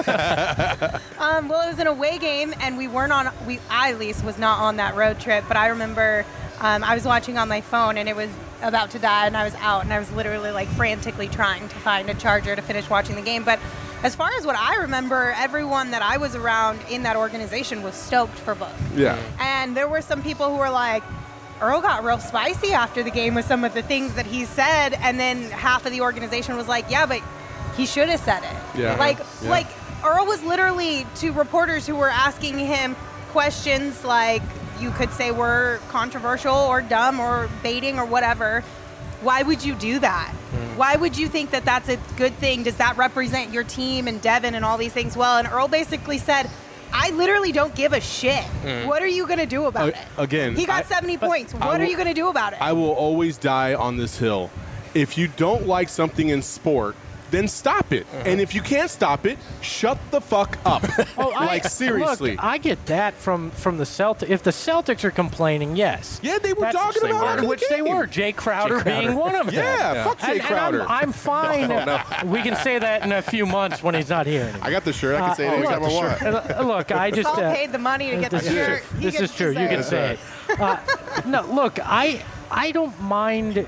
Um, well, it was an away game, and we weren't on. We, I at least, was not on that road trip. But I remember um, I was watching on my phone, and it was about to die, and I was out, and I was literally like frantically trying to find a charger to finish watching the game. But as far as what I remember, everyone that I was around in that organization was stoked for Book. Yeah. And there were some people who were like, Earl got real spicy after the game with some of the things that he said, and then half of the organization was like, yeah, but he should have said it. Yeah. Like, Yeah. like Earl was literally to reporters who were asking him questions like you could say were controversial or dumb or baiting or whatever. Why would you do that? Why would you think that that's a good thing? Does that represent your team and Devin and all these things well? And Earl basically said, I literally don't give a shit. What are you going to do about Uh, it? again, He got I- seventy points. I What are will- you going to do about it? I will always die on this hill. If you don't like something in sport, then stop it. And if you can't stop it, shut the fuck up. Oh, I, like seriously. Look, I get that from from the Celtics. If the Celtics are complaining, yes. yeah, they were That's- talking they about were. it. in the Which they game. were. Jay Crowder, Jay Crowder. being one of them. Yeah, fuck Jay And- and Crowder. I'm, I'm fine. We can say that in a few months when he's not here anymore. I got the shirt. I can Uh, say it oh, anytime look, I want. Uh, Look, I just. Saul uh, paid the money to get the this is shirt. true. He This gets is true. to You say can it. say it. Uh, no, look, I I don't mind.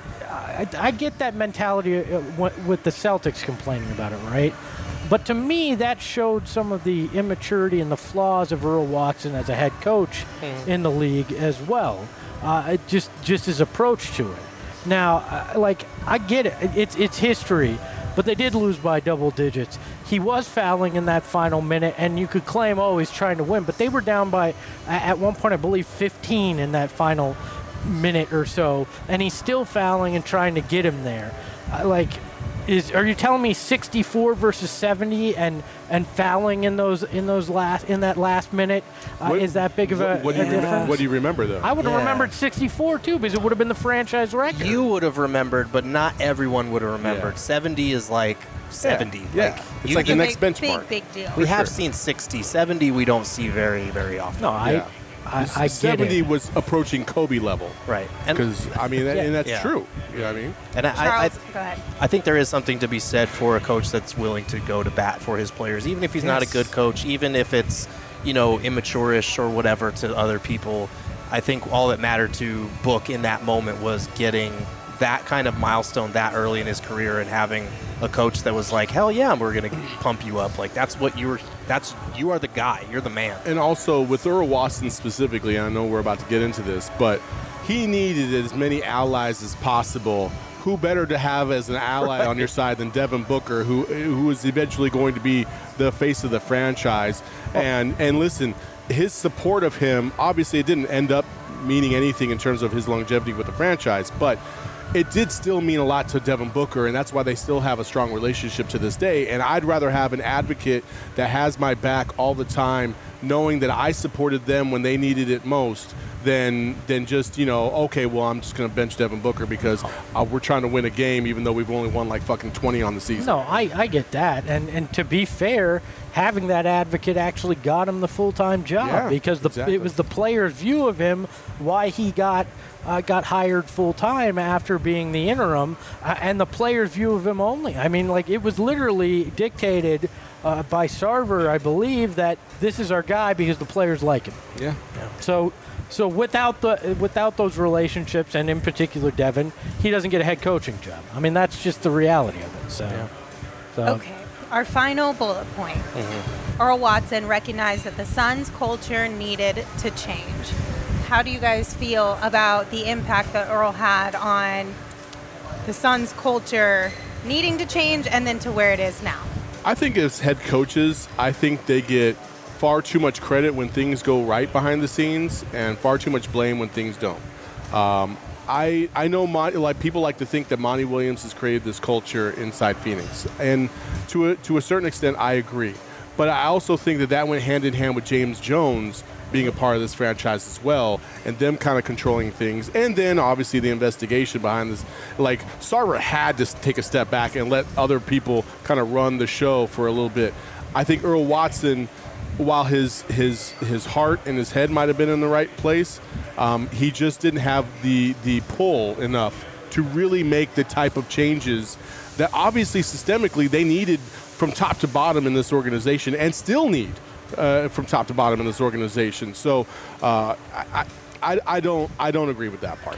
I, I get that mentality uh, w- with the Celtics complaining about it, right? But to me, that showed some of the immaturity and the flaws of Earl Watson as a head coach in the league as well. Uh, it just just his approach to it. Now, uh, like I get it, it's it's history, but they did lose by double digits. He was fouling in that final minute, and you could claim, oh, he's trying to win, but they were down by at one point, I believe, fifteen in that final minute or so, and he's still fouling and trying to get him there. Uh, like, is are you telling me sixty-four versus seventy and and fouling in those in those last in that last minute uh, What- is that big of a, what, what do a you remem- difference? what do you remember though? I would have Yeah. remembered sixty-four too, because it would have been the franchise record. You would have remembered, but not everyone would have remembered. Yeah. seventy is like seventy. Yeah. Like, It's you like the can- next big, benchmark. Big, big deal. we have sure. seen sixty. seventy we don't see very, very often. no, I Yeah. I, I get seventy it. was approaching Kobe level. Right. And, Because I mean, that, Yeah. and that's Yeah. true. You know what I mean? and I, I, Charles, go ahead. I think there is something to be said for a coach that's willing to go to bat for his players, even if he's not a Yes. good coach, even if it's, you know, immature-ish or whatever to other people. I think all that mattered to Book in that moment was getting that kind of milestone that early in his career and having a coach that was like, hell yeah, we're going to pump you up. Like, that's what you were, that's, you are the guy. You're the man. And also with Earl Watson specifically, and I know we're about to get into this, but he needed as many allies as possible. Who better to have as an ally on your side than Devin Booker, who who is eventually going to be the face of the franchise? And and listen, his support of him, obviously it didn't end up meaning anything in terms of his longevity with the franchise, but it did still mean a lot to Devin Booker, and that's why they still have a strong relationship to this day. And I'd rather have an advocate that has my back all the time, knowing that I supported them when they needed it most, than than just, you know, okay, well, I'm just going to bench Devin Booker because uh, we're trying to win a game even though we've only won like fucking twenty on the season. No, I, I get that. And and to be fair, having that advocate actually got him the full-time job Yeah, because the, exactly. it was the player's view of him why he got uh, got hired full-time after being the interim, uh, and the player's view of him only. I mean, like, it was literally dictated uh, by Sarver, I believe, that this is our guy because the players like him. Yeah. So so without the without those relationships, and in particular Devin, he doesn't get a head coaching job. I mean, that's just the reality of it. So, so Okay. Our final bullet point. Earl Watson recognized that the Suns' culture needed to change. How do you guys feel about the impact that Earl had on the Suns' culture needing to change and then to where it is now? I think as head coaches, I think they get far too much credit when things go right behind the scenes and far too much blame when things don't. Um, I I know Monty, like people like to think that Monty Williams has created this culture inside Phoenix, and to a, to a certain extent, I agree. But I also think that that went hand in hand with James Jones being a part of this franchise as well, and them kind of controlling things, and then obviously the investigation behind this. Like, Sarver had to take a step back and let other people kind of run the show for a little bit. I think Earl Watson, while his his his heart and his head might have been in the right place, um, he just didn't have the the pull enough to really make the type of changes that obviously systemically they needed from top to bottom in this organization, and still need uh, from top to bottom in this organization. So uh, I, I I don't I don't agree with that part.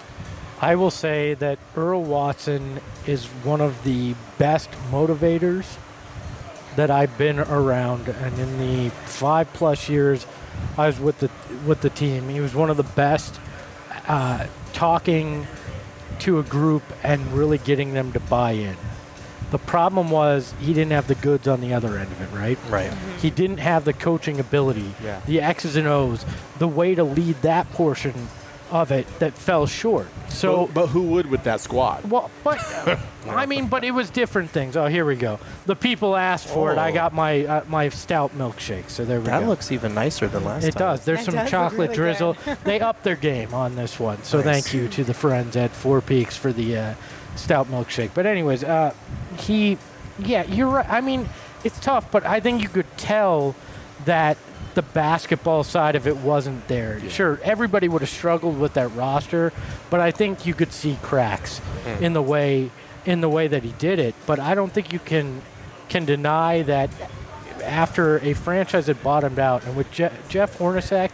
I will say that Earl Watson is one of the best motivators that I've been around, and in the five plus years I was with the with the team, he was one of the best uh, talking to a group and really getting them to buy in. The problem was he didn't have the goods on the other end of it, right? Right. He didn't have the coaching ability, Yeah. the X's and O's, the way to lead that portion of it that fell short. So, but, but who would with that squad? well, but I mean, but it was different things. Oh, here we go. The people asked for it. I Oh. got my uh, my stout milkshake. So there we That go. looks even nicer than last It time. does. There's It some does look chocolate really drizzle. good. They upped their game on this one. So Nice. thank you to the friends at Four Peaks for the uh, stout milkshake. But anyways, uh, he, yeah, you're right. I mean, it's tough, but I think you could tell that the basketball side of it wasn't there. Sure, everybody would have struggled with that roster, but I think you could see cracks in the way in the way that he did it. But I don't think you can can deny that after a franchise had bottomed out, and with Je- Jeff Hornacek,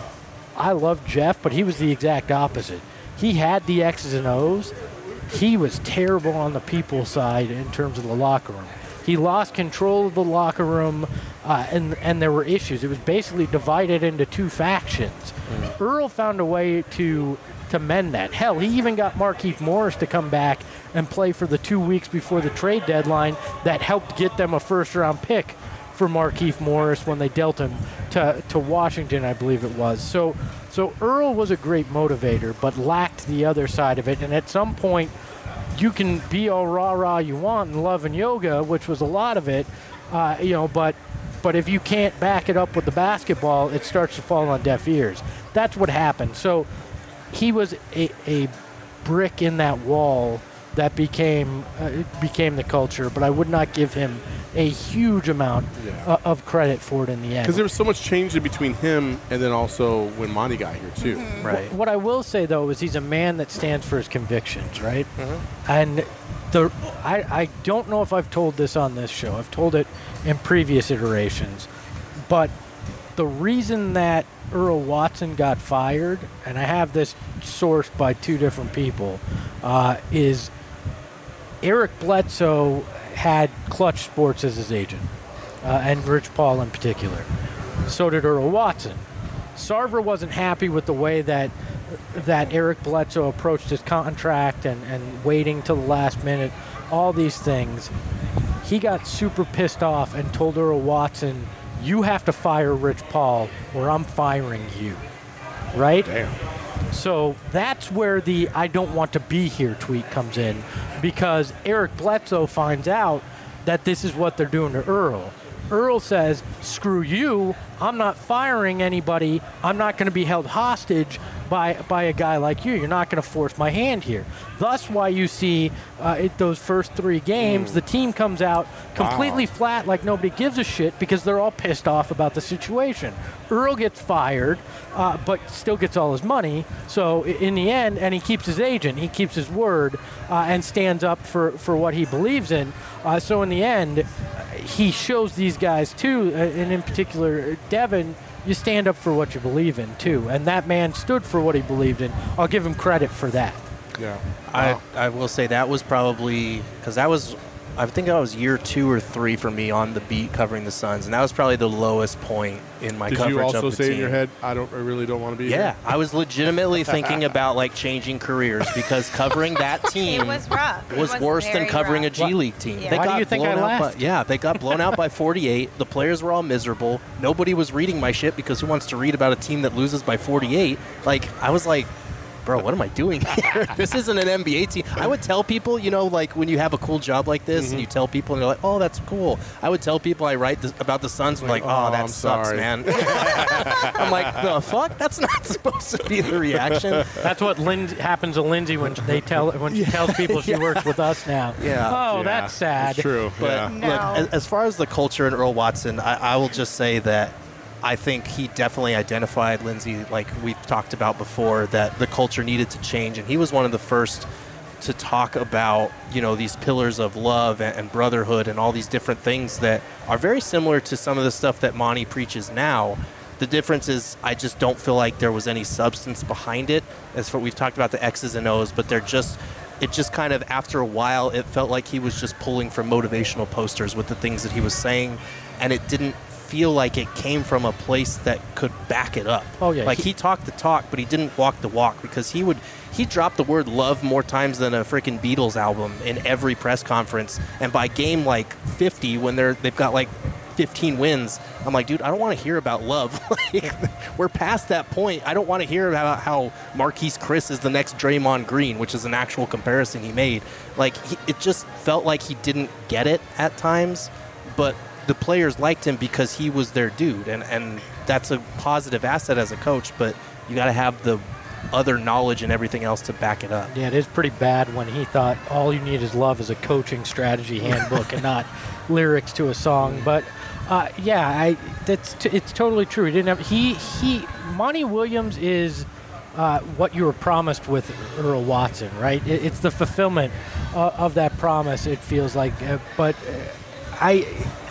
I love Jeff, but he was the exact opposite. He had the X's and O's. He was terrible on the people side in terms of the locker room. He lost control of the locker room, uh, and and there were issues. It was basically divided into two factions. Earl found a way to to mend that. Hell, he even got Markieff Morris to come back and play for the two weeks before the trade deadline that helped get them a first-round pick for Markieff Morris when they dealt him to, to Washington, I believe it was. So, so Earl was a great motivator, but lacked the other side of it. And at some point, you can be all rah-rah you want in love and yoga, which was a lot of it, uh, you know, but but if you can't back it up with the basketball, it starts to fall on deaf ears. That's what happened. So he was a, a brick in that wall that became uh, it became the culture, but I would not give him a huge amount Yeah. uh, of credit for it in the end. Because there was so much change in between him and then also when Monty got here too. Right. What I will say though is he's a man that stands for his convictions, right? And the I, I don't know if I've told this on this show. I've told it in previous iterations, but the reason that Earl Watson got fired, and I have this sourced by two different people, uh, is Eric Bledsoe had Clutch Sports as his agent, uh, and Rich Paul in particular. So did Earl Watson. Sarver wasn't happy with the way that that Eric Bledsoe approached his contract and, and waiting till the last minute, all these things. He got super pissed off and told Earl Watson, you have to fire Rich Paul or I'm firing you. Right? Damn. So that's where the I don't want to be here tweet comes in, because Eric Bledsoe finds out that this is what they're doing to Earl. Earl says, screw you, I'm not firing anybody. I'm not going to be held hostage by by a guy like you. You're not going to force my hand here. Thus why you see uh, it, those first three games, mm. the team comes out completely wow. flat, like nobody gives a shit, because they're all pissed off about the situation. Earl gets fired, uh, but still gets all his money. So in the end, and he keeps his agent, he keeps his word, uh, and stands up for, for what he believes in. Uh, so in the end, he shows these guys too, uh, and in particular Devin, you stand up for what you believe in too. And that man stood for what he believed in. I'll give him credit for that. Yeah. Wow. I, I will say that was probably, because that was, I think that was year two or three for me on the beat covering the Suns, and that was probably the lowest point in my Did coverage of the team. Did you also say in your head, I don't, I really don't want to be yeah, here? Yeah, I was legitimately thinking about like changing careers, because covering that team it was, rough. was, was worse than covering rough. a G League team. Yeah. They Why got do you think blown I out left? By, yeah, they got blown out by forty-eight. The players were all miserable. Nobody was reading my shit, because who wants to read about a team that loses by forty-eight? Like, I was like, bro, what am I doing here? This isn't an N B A team. I would tell people, you know, like when you have a cool job like this, mm-hmm. and you tell people, and they're like, oh, that's cool. I would tell people I write this, about the Suns, and like, oh, oh that I'm sucks, sorry. man. I'm like, the fuck? That's not supposed to be the reaction. That's what Lindsay, happens to Lindsay when they tell when she tells people she yeah. works with us now. Yeah. Oh, Yeah, that's sad. It's true. But yeah. No. look, as, as far as the culture in Earl Watson, I, I will just say that I think he definitely identified, Lindsay, like we've talked about before, that the culture needed to change, and he was one of the first to talk about, you know, these pillars of love and, and brotherhood and all these different things that are very similar to some of the stuff that Monty preaches now. The difference is I just don't feel like there was any substance behind it. As for we've talked about the X's and O's, but they're just it just kind of, after a while, it felt like he was just pulling from motivational posters with the things that he was saying, and it didn't feel like it came from a place that could back it up. Oh, yeah. Like He- he talked the talk, but he didn't walk the walk, because he would he dropped the word love more times than a freaking Beatles album in every press conference. And by game like fifty, when they're they've got like fifteen wins, I'm like, dude, I don't want to hear about love. Like, we're past that point. I don't want to hear about how Marquise Chris is the next Draymond Green, which is an actual comparison he made. Like, he, it just felt like he didn't get it at times, but the players liked him because he was their dude, and, and that's a positive asset as a coach, but you got to have the other knowledge and everything else to back it up. Yeah, it is pretty bad when he thought all you need is love as a coaching strategy handbook and not lyrics to a song. But uh, yeah, I that's t- it's totally true. He didn't have he he. Monty Williams is uh, what you were promised with Earl Watson, right? It, it's the fulfillment uh, of that promise. It feels like, uh, but uh, I.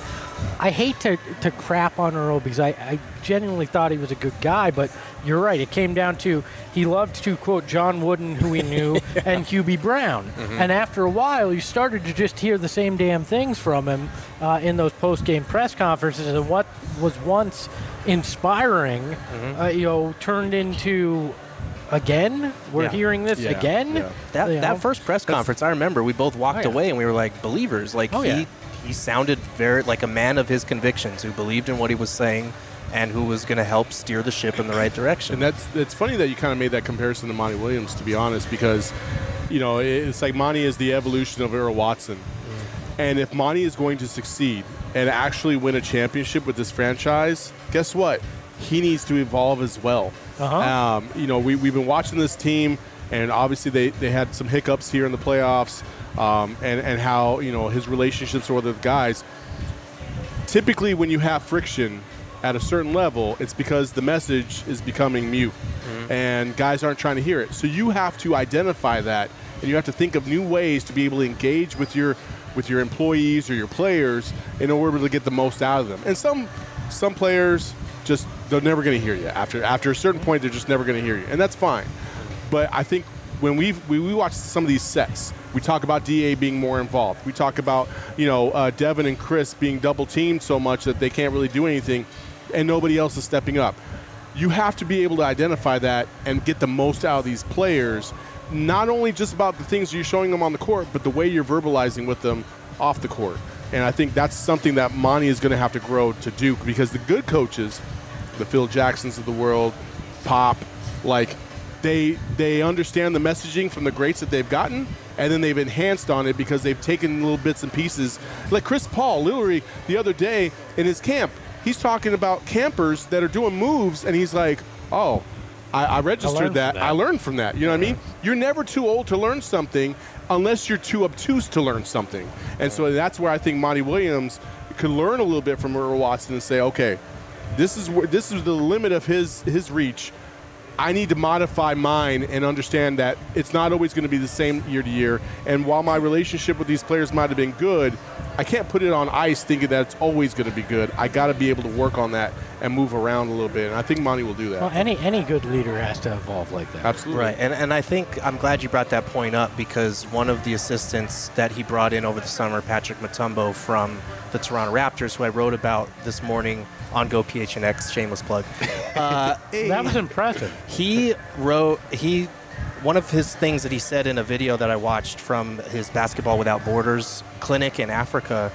I hate to, to crap on Earl, because I, I genuinely thought he was a good guy, but you're right. It came down to he loved to quote John Wooden, who he knew, yeah. and Hubie Brown. Mm-hmm. And after a while, you started to just hear the same damn things from him uh, in those post-game press conferences. And what was once inspiring, mm-hmm. uh, you know, turned into... Again? We're Yeah. hearing this Yeah. again? Yeah. That You know? that first press conference, I remember we both walked Oh, yeah. away and we were like believers. Like Oh, he yeah. he sounded very like a man of his convictions, who believed in what he was saying and who was going to help steer the ship in the right direction. And that's it's funny that you kind of made that comparison to Monty Williams, to be honest, because, you know, it's like Monty is the evolution of Earl Watson. Mm. And if Monty is going to succeed and actually win a championship with this franchise, guess what? He needs to evolve as well. Uh-huh. Um, you know, we, we've been watching this team, and obviously they, they had some hiccups here in the playoffs, um, and, and how, you know, his relationships with the guys. Typically, when you have friction at a certain level, it's because the message is becoming mute, mm-hmm. and guys aren't trying to hear it. So you have to identify that, and you have to think of new ways to be able to engage with your with your employees or your players in order to get the most out of them. And some some players just they're never going to hear you after after a certain point. They're just never going to hear you, and that's fine. But I think when we've, we we watch some of these sets, we talk about D A being more involved. We talk about, you know, uh, Devin and Chris being double teamed so much that they can't really do anything, and nobody else is stepping up. You have to be able to identify that and get the most out of these players, not only just about the things you're showing them on the court, but the way you're verbalizing with them off the court. And I think that's something that Monty is going to have to grow to do, because the good coaches, the Phil Jacksons of the world, Pop, like they they understand the messaging from the greats that they've gotten, and then they've enhanced on it because they've taken little bits and pieces. Like Chris Paul, literally the other day in his camp, he's talking about campers that are doing moves, and he's like, oh, I, I registered I that. that. I learned from that. You know what I mean? You're never too old to learn something unless you're too obtuse to learn something. And so that's where I think Monty Williams could learn a little bit from Earl Watson and say, okay, this is where, this is the limit of his his reach. I need to modify mine and understand that it's not always going to be the same year to year. And while my relationship with these players might have been good, I can't put it on ice thinking that it's always going to be good. I got to be able to work on that and move around a little bit. And I think Monty will do that. Well, any any good leader has to evolve like that. Absolutely. Right, and and I think I'm glad you brought that point up because one of the assistants that he brought in over the summer, Patrick Mutombo from the Toronto Raptors, who I wrote about this morning on Go P H N X, shameless plug. Uh, That was impressive. he wrote he one of his things that he said in a video that I watched from his Basketball Without Borders clinic in Africa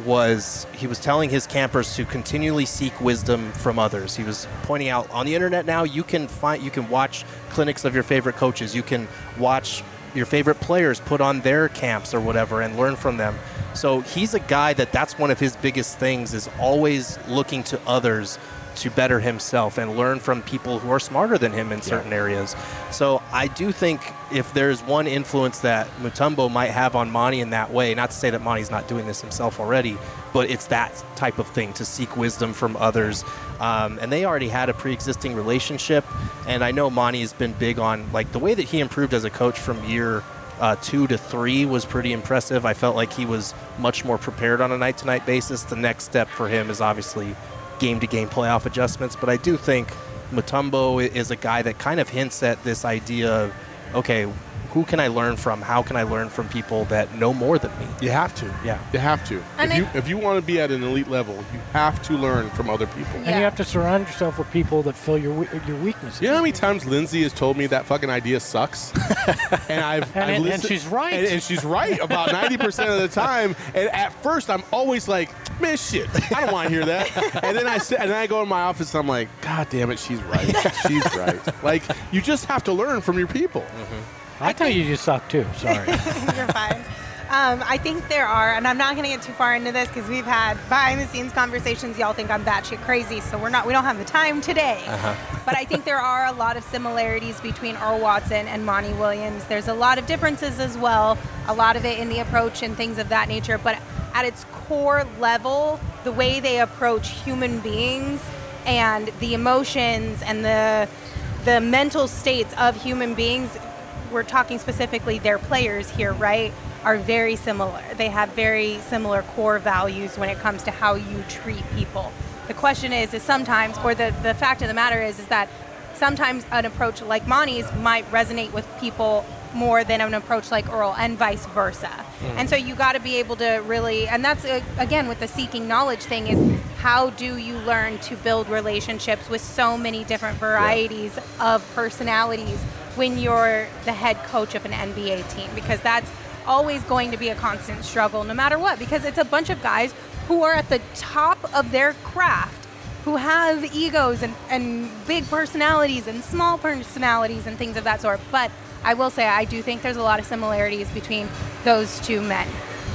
was he was telling his campers to continually seek wisdom from others. He was pointing out on the internet now you can find you can watch clinics of your favorite coaches. You can watch your favorite players put on their camps or whatever and learn from them. So he's a guy that that's one of his biggest things is always looking to others to better himself and learn from people who are smarter than him in certain yeah. areas. So I do think if there's one influence that Mutombo might have on Monty in that way, not to say that Monty's not doing this himself already, but it's that type of thing, to seek wisdom from others. Um, and they already had a pre-existing relationship. And I know Monty has been big on, like, the way that he improved as a coach from year uh, two to three was pretty impressive. I felt like he was much more prepared on a night-to-night basis. The next step for him is obviously game-to-game playoff adjustments, but I do think Mutombo is a guy that kind of hints at this idea of, okay, who can I learn from? How can I learn from people that know more than me? You have to. Yeah. You have to. And if I- you if you want to be at an elite level, you have to learn from other people. And you have to surround yourself with people that fill your we- your weaknesses. You know how many times Lindsay has told me that fucking idea sucks? and I've, And- I've and listened, she's right. And, and she's right about ninety percent of the time. And at first, I'm always like, man, shit, I don't want to hear that. and then I sit, and then I go in my office, and I'm like, God damn it, she's right. She's right. Like, you just have to learn from your people. Mm-hmm. I tell you, you suck too. Sorry. You're fine. Um, I think there are, and I'm not going to get too far into this because we've had behind-the-scenes conversations. Y'all think I'm batshit crazy, so we're not. We don't have the time today. Uh-huh. But I think there are a lot of similarities between Earl Watson and Monty Williams. There's a lot of differences as well. A lot of it in the approach and things of that nature. But at its core level, the way they approach human beings and the emotions and the the mental states of human beings. We're talking specifically their players here, right, are very similar. They have very similar core values when it comes to how you treat people. The question is, is sometimes, or the, the fact of the matter is, is that sometimes an approach like Monty's might resonate with people more than an approach like Earl, and vice versa. Mm. And so you got to be able to really, and that's, uh, again, with the seeking knowledge thing, is how do you learn to build relationships with so many different varieties yeah. of personalities when you're the head coach of an N B A team, because that's always going to be a constant struggle no matter what, because it's a bunch of guys who are at the top of their craft, who have egos and, and big personalities and small personalities and things of that sort. But I will say, I do think there's a lot of similarities between those two men.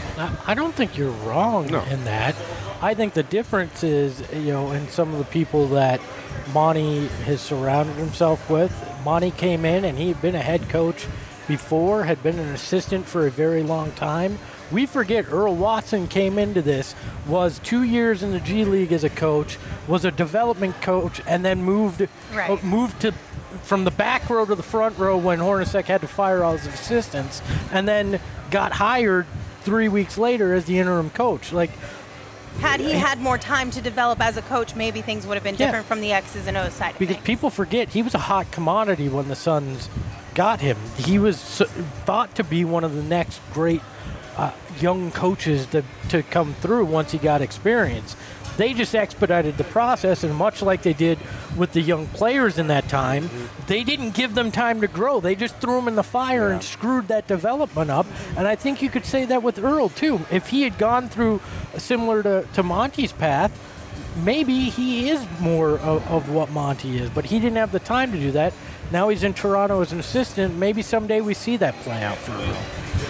I don't think you're wrong No. in that. I think the difference is, you know, in some of the people that Monty has surrounded himself with. Monty came in and he had been a head coach before, had been an assistant for a very long time. We forget Earl Watson came into this, was two years in the G League as a coach, was a development coach, and then moved Right. uh, moved to from the back row to the front row when Hornacek had to fire all his assistants, and then got hired three weeks later as the interim coach. Like, Had he had more time to develop as a coach, maybe things would have been Yeah. different from the X's and O's side of because things. people forget he was a hot commodity when the Suns got him. He was s- thought to be one of the next great uh, young coaches to, to come through once he got experience. They just expedited the process, and much like they did with the young players in that time, mm-hmm. they didn't give them time to grow. They just threw them in the fire yeah. and screwed that development up. And I think you could say that with Earl, too. If he had gone through similar to, to Monty's path, maybe he is more of, of what Monty is, but he didn't have the time to do that. Now he's in Toronto as an assistant. Maybe someday we see that play out for Earl.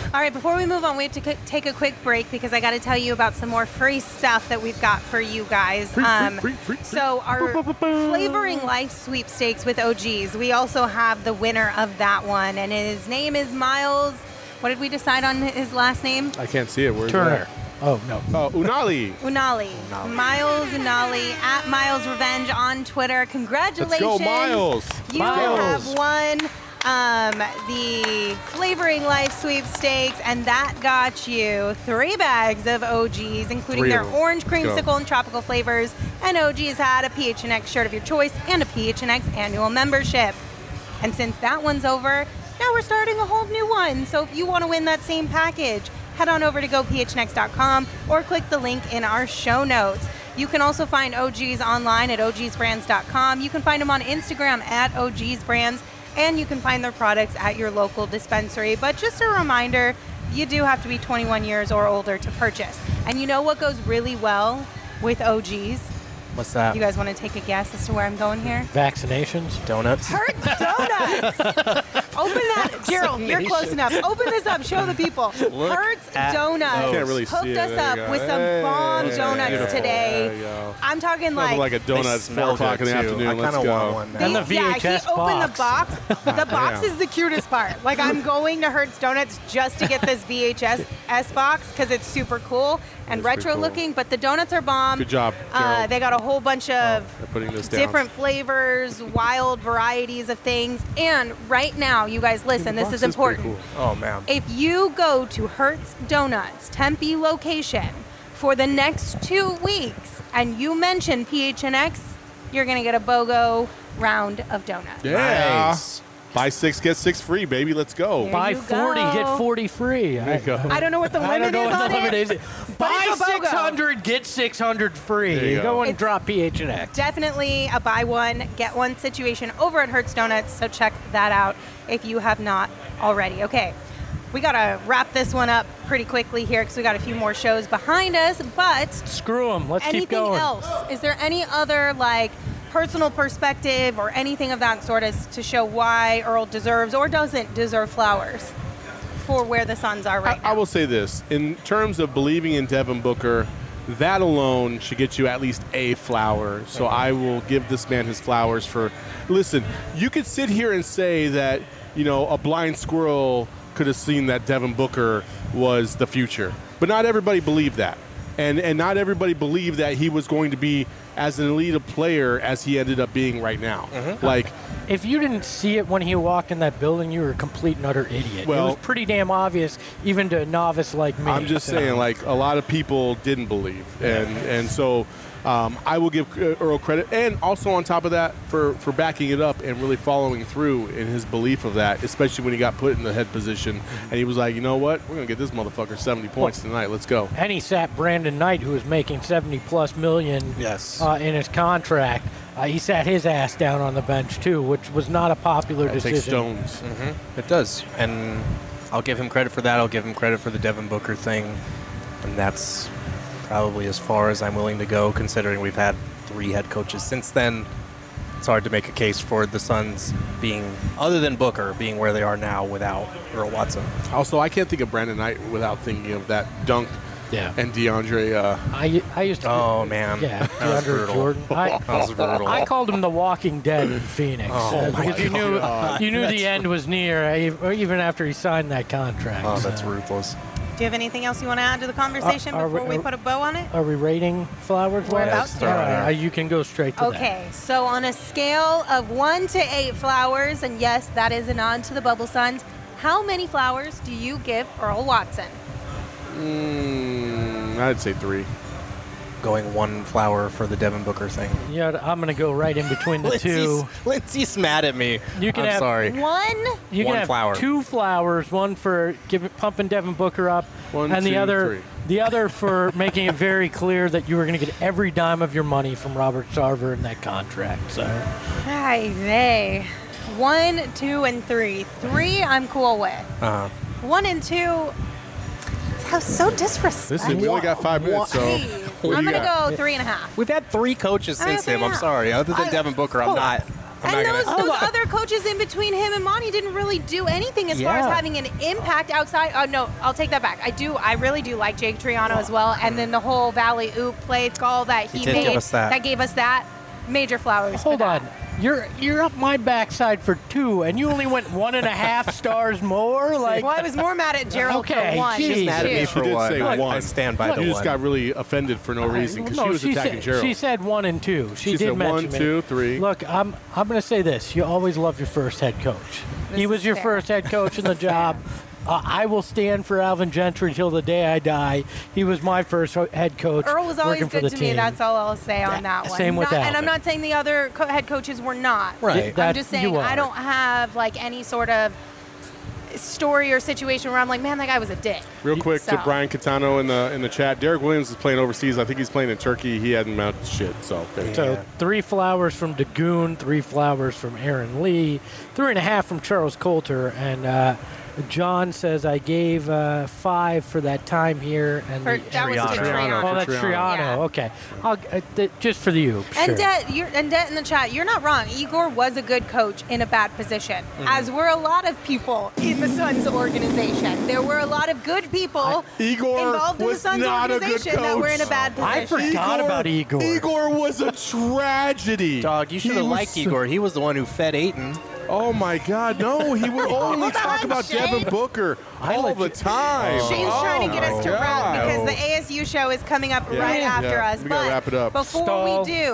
All right, before we move on, we have to c- take a quick break because I got to tell you about some more free stuff that we've got for you guys. Free, um, free, free, free, so our Flavoring Life sweepstakes with O Gs, we also have the winner of that one, and his name is Miles. What did we decide on his last name? I can't see it. Where's Turner. that? Oh, no. Oh, Unali. Unali. Unali. Miles Unali at Miles Revenge on Twitter. Congratulations. Let's go, Miles. You Miles. have won um, the Flavoring Life sweepstakes, and that got you three bags of O Gs, including Three their of them. orange Let's go. creamsicle and tropical flavors. And O Gs had a P H N X shirt of your choice and a P H N X annual membership. And since that one's over, now we're starting a whole new one. So if you want to win that same package, head on over to go P H N X dot com or click the link in our show notes. You can also find O Gs online at O Gs brands dot com. You can find them on Instagram at O Gs brands, and you can find their products at your local dispensary. But just a reminder, you do have to be twenty-one years or older to purchase. And you know what goes really well with O Gs? What's that? You guys want to take a guess as to where I'm going here? Vaccinations? Donuts? Hertz Donuts. Open that, Gerald. You're close enough. Open this up. Show the people. Look Hertz at Donuts those. Can't really hooked see it. us There up you go. with some Hey, bomb yeah, donuts beautiful. today. There you go. I'm talking Nothing like. like a donut at smell four o'clock good, in the too. afternoon. I Let's kinda go. want one now. And the yeah, V H S he opened the box. box. The box is the cutest part. Like, I'm going to Hertz Donuts just to get this V H S S box because it's super cool and That's pretty retro cool. looking. But the donuts are bomb. Good job, Uh, Gerald. they got a whole bunch of They're putting this down. different flavors, wild varieties of things. And right now, you guys listen, The this box is is pretty important. cool. Oh, man. If you go to Hertz Donuts Tempe location for the next two weeks and you mention P H N X, you're going to get a BOGO round of donuts. Yeah. Nice. Buy six, get six free, baby. Let's go. There Buy you forty, go. get forty free. There you go. I don't know what the I limit don't know is what on the limit it. is. but Buy it's a BOGO. six hundred, get six hundred free. There you You go. go and It's- drop P H N X. Definitely a buy one, get one situation over at Hertz Donuts, so check that out if you have not already. Okay, we got to wrap this one up pretty quickly here because we got a few more shows behind us, but Screw them. Let's anything keep going. else? Is there any other, like, personal perspective or anything of that sort as to show why Earl deserves or doesn't deserve flowers for where the Suns are right I, now? I will say this. In terms of believing in Devin Booker, that alone should get you at least a flower. So I will give this man his flowers for. Listen, you could sit here and say that, you know, a blind squirrel could have seen that Devin Booker was the future. But not everybody believed that. And and not everybody believed that he was going to be as an elite a player as he ended up being right now. Like, If you didn't see it when he walked in that building, you were a complete and utter idiot. Well- it was pretty damn obvious, even to a novice like me. I'm just So- saying, like, a lot of people didn't believe, and and so um, I will give uh, Earl credit, and also on top of that, for for backing it up and really following through in his belief of that, especially when he got put in the head position, and he was like, you know what, we're gonna get this motherfucker seventy points tonight. Let's go. And he sat Brandon Knight, who was making seventy plus million Yes. uh, in his contract. Uh, he sat his ass down on the bench too, which was not a popular That takes decision. stones. It does. And I'll give him credit for that. I'll give him credit for the Devin Booker thing. And that's probably as far as I'm willing to go, considering we've had three head coaches since then. It's hard to make a case for the Suns being, other than Booker, being where they are now without Earl Watson. Also, I can't think of Brandon Knight without thinking of that dunk Yeah. and DeAndre. Uh, I, I used to. Oh, man. Yeah, That was DeAndre brutal. Jordan. I, That was brutal. I called him the Walking Dead in Phoenix Oh, uh, my because you knew God. you knew the end was near, uh, even after he signed that contract. Oh, that's so. ruthless. Do you have anything else you want to add to the conversation Uh, are before we- we put a bow on it? Are we rating flowers? We're Wes? about to. All right, uh, you can go straight to that. Okay, so on a scale of one to eight flowers, and yes, that is a nod to the Bubble Suns, how many flowers do you give Earl Watson? mm, I'd say three. Going one flower for the Devin Booker thing. Yeah, I'm going to go right in between the two. Lindsay's, Lindsay's mad at me. You can I'm have sorry. One? You One can have flower. two flowers, one for giving pumping Devin Booker up, One, and the two, other three. the other for making it very clear that you were going to get every dime of your money from Robert Sarver in that contract. So Ay, vey. One, two, and three. Three, I'm cool with. Uh-huh. One and two, how so disrespectful. Listen, we only got five minutes, so Please. what do I'm you going to got? go three and a half. We've had three coaches I mean, since him. yeah. I'm sorry. Other than I- Devin Booker, I'm hold on. not. I'm And not those, gonna- those Oh, other coaches in between him and Monty didn't really do anything as far as Yeah. having an impact outside. Oh no, I'll take that back. I do. I really do like Jake Triano as well. And then the whole Valley Oop play call that he, He did made give us that. gave us that major flowers. Hold for that. on. You're you're up my backside for two, and you only went one and a half stars more. Like, Well, I was more mad at Gerald Okay, for one. geez. She's mad at me too. She for did one. say I, one. I stand by You the just one. got really offended for no reason because no, she was attacking said, Gerald. She said one and two. She, She did said mention one, it. two, three. Look, I'm I'm going to say this. You always love your first head coach. This he was is your fair. first head coach in the job. Uh, I will stand for Alvin Gentry until the day I die. He was my first ho- head coach. Earl was always working for good the to me. team. That's all I'll say on Yeah, that one. same with Not- And I'm Alvin. not saying the other co- head coaches were not. Right. I'm That- just you saying are. I don't have like any sort of story or situation where I'm like, man, that guy was a dick. Real quick So- to Brian Catano in the in the chat. Derek Williams is playing overseas. I think he's playing in Turkey. He hadn't mounted shit. So there you go. So Yeah. three flowers from Dagoon, three flowers from Aaron Lee, three and a half from Charles Coulter, and uh, John says I gave uh, five for that time here. And For, the, that was to Triano. Triano. oh, that's Triano. Triano. Yeah. Okay, I'll, uh, th- just for the you. And sure. Det, you're, and Det in the chat, you're not wrong. Igor was a good coach in a bad position, Mm-hmm. as were a lot of people in the Suns organization. There were a lot of good people Igor involved in the was Suns not a good organization that were in a coach. bad I position. forgot about Igor. Igor was a tragedy. Dog, you should He have was liked so- Igor. He was the one who fed Aiton. Oh my God, no! He would only Hold talk on, about Shane. Devin Booker I all let the you- time. Shane's oh trying to get us to my wrap God. because the A S U show is coming up Yeah. right after Yeah, us. we gotta but wrap it up. before Stall. we do,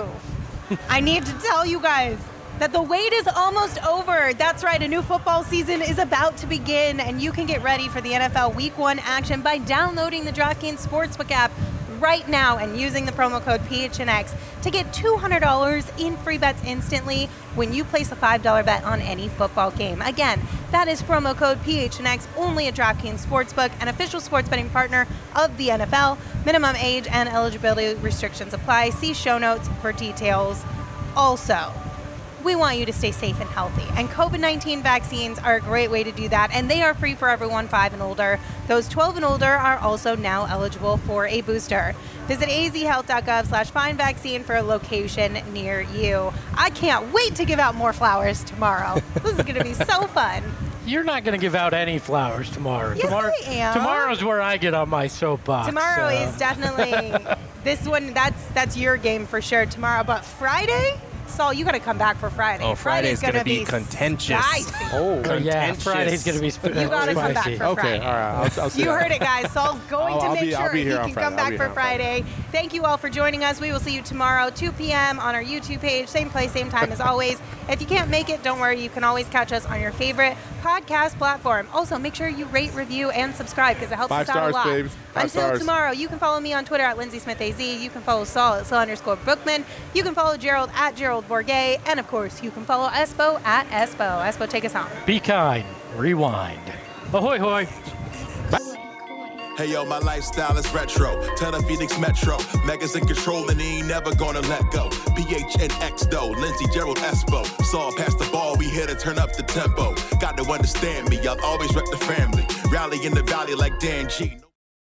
I need to tell you guys that the wait is almost over. That's right, a new football season is about to begin, and you can get ready for the N F L Week One action by downloading the DraftKings Sportsbook app right now and using the promo code P H N X to get two hundred dollars in free bets instantly when you place a five dollar bet on any football game. Again, that is promo code P H N X only at DraftKings Sportsbook, an official sports betting partner of the N F L. Minimum age and eligibility restrictions apply. See show notes for details. Also, we want you to stay safe and healthy. And COVID nineteen vaccines are a great way to do that. And they are free for everyone five and older. Those twelve and older are also now eligible for a booster. Visit azhealth.gov slash find vaccine for a location near you. I can't wait to give out more flowers tomorrow. This is going to be so fun. You're not going to give out any flowers tomorrow. Yes, tomorrow, I am. Tomorrow's where I get on my soapbox. Tomorrow so. is definitely this one. That's that's your game for sure tomorrow. But Friday, Saul, you got to come back for Friday. Oh, Friday's gonna gonna be contentious. spicy. Oh, Uh, yeah, contentious. Friday's going to be sp- You gotta come back spicy. for okay, Friday. all right. I'll, I'll see You that. heard it, guys. Saul's going I'll- to I'll make be- I'll sure be he here on can Friday. come I'll back be for here on Friday. Friday. Thank you all for joining us. We will see you tomorrow, two p.m. on our YouTube page. Same place, same time as always. If you can't make it, don't worry. You can always catch us on your favorite podcast platform. Also, make sure you rate, review, and subscribe because it helps Five us out a stars, lot. babes. Five Until stars. tomorrow, you can follow me on Twitter at Lindsay Smith A Z. You can follow Saul at Saul underscore Bookman. You can follow Gerald at Gerald Bourget. And of course, you can follow Espo at Espo. Espo, take us home. Be kind. Rewind. Ahoy, hoy. Hey yo, my lifestyle is retro. Tell the Phoenix Metro. Megas in control and he ain't never gonna let go. P H N X though, Lindsey, Gerald, Espo. Saw past the ball, we here to turn up the tempo. Got to understand me, I'll always rep the family. Rally in the valley like Dan G.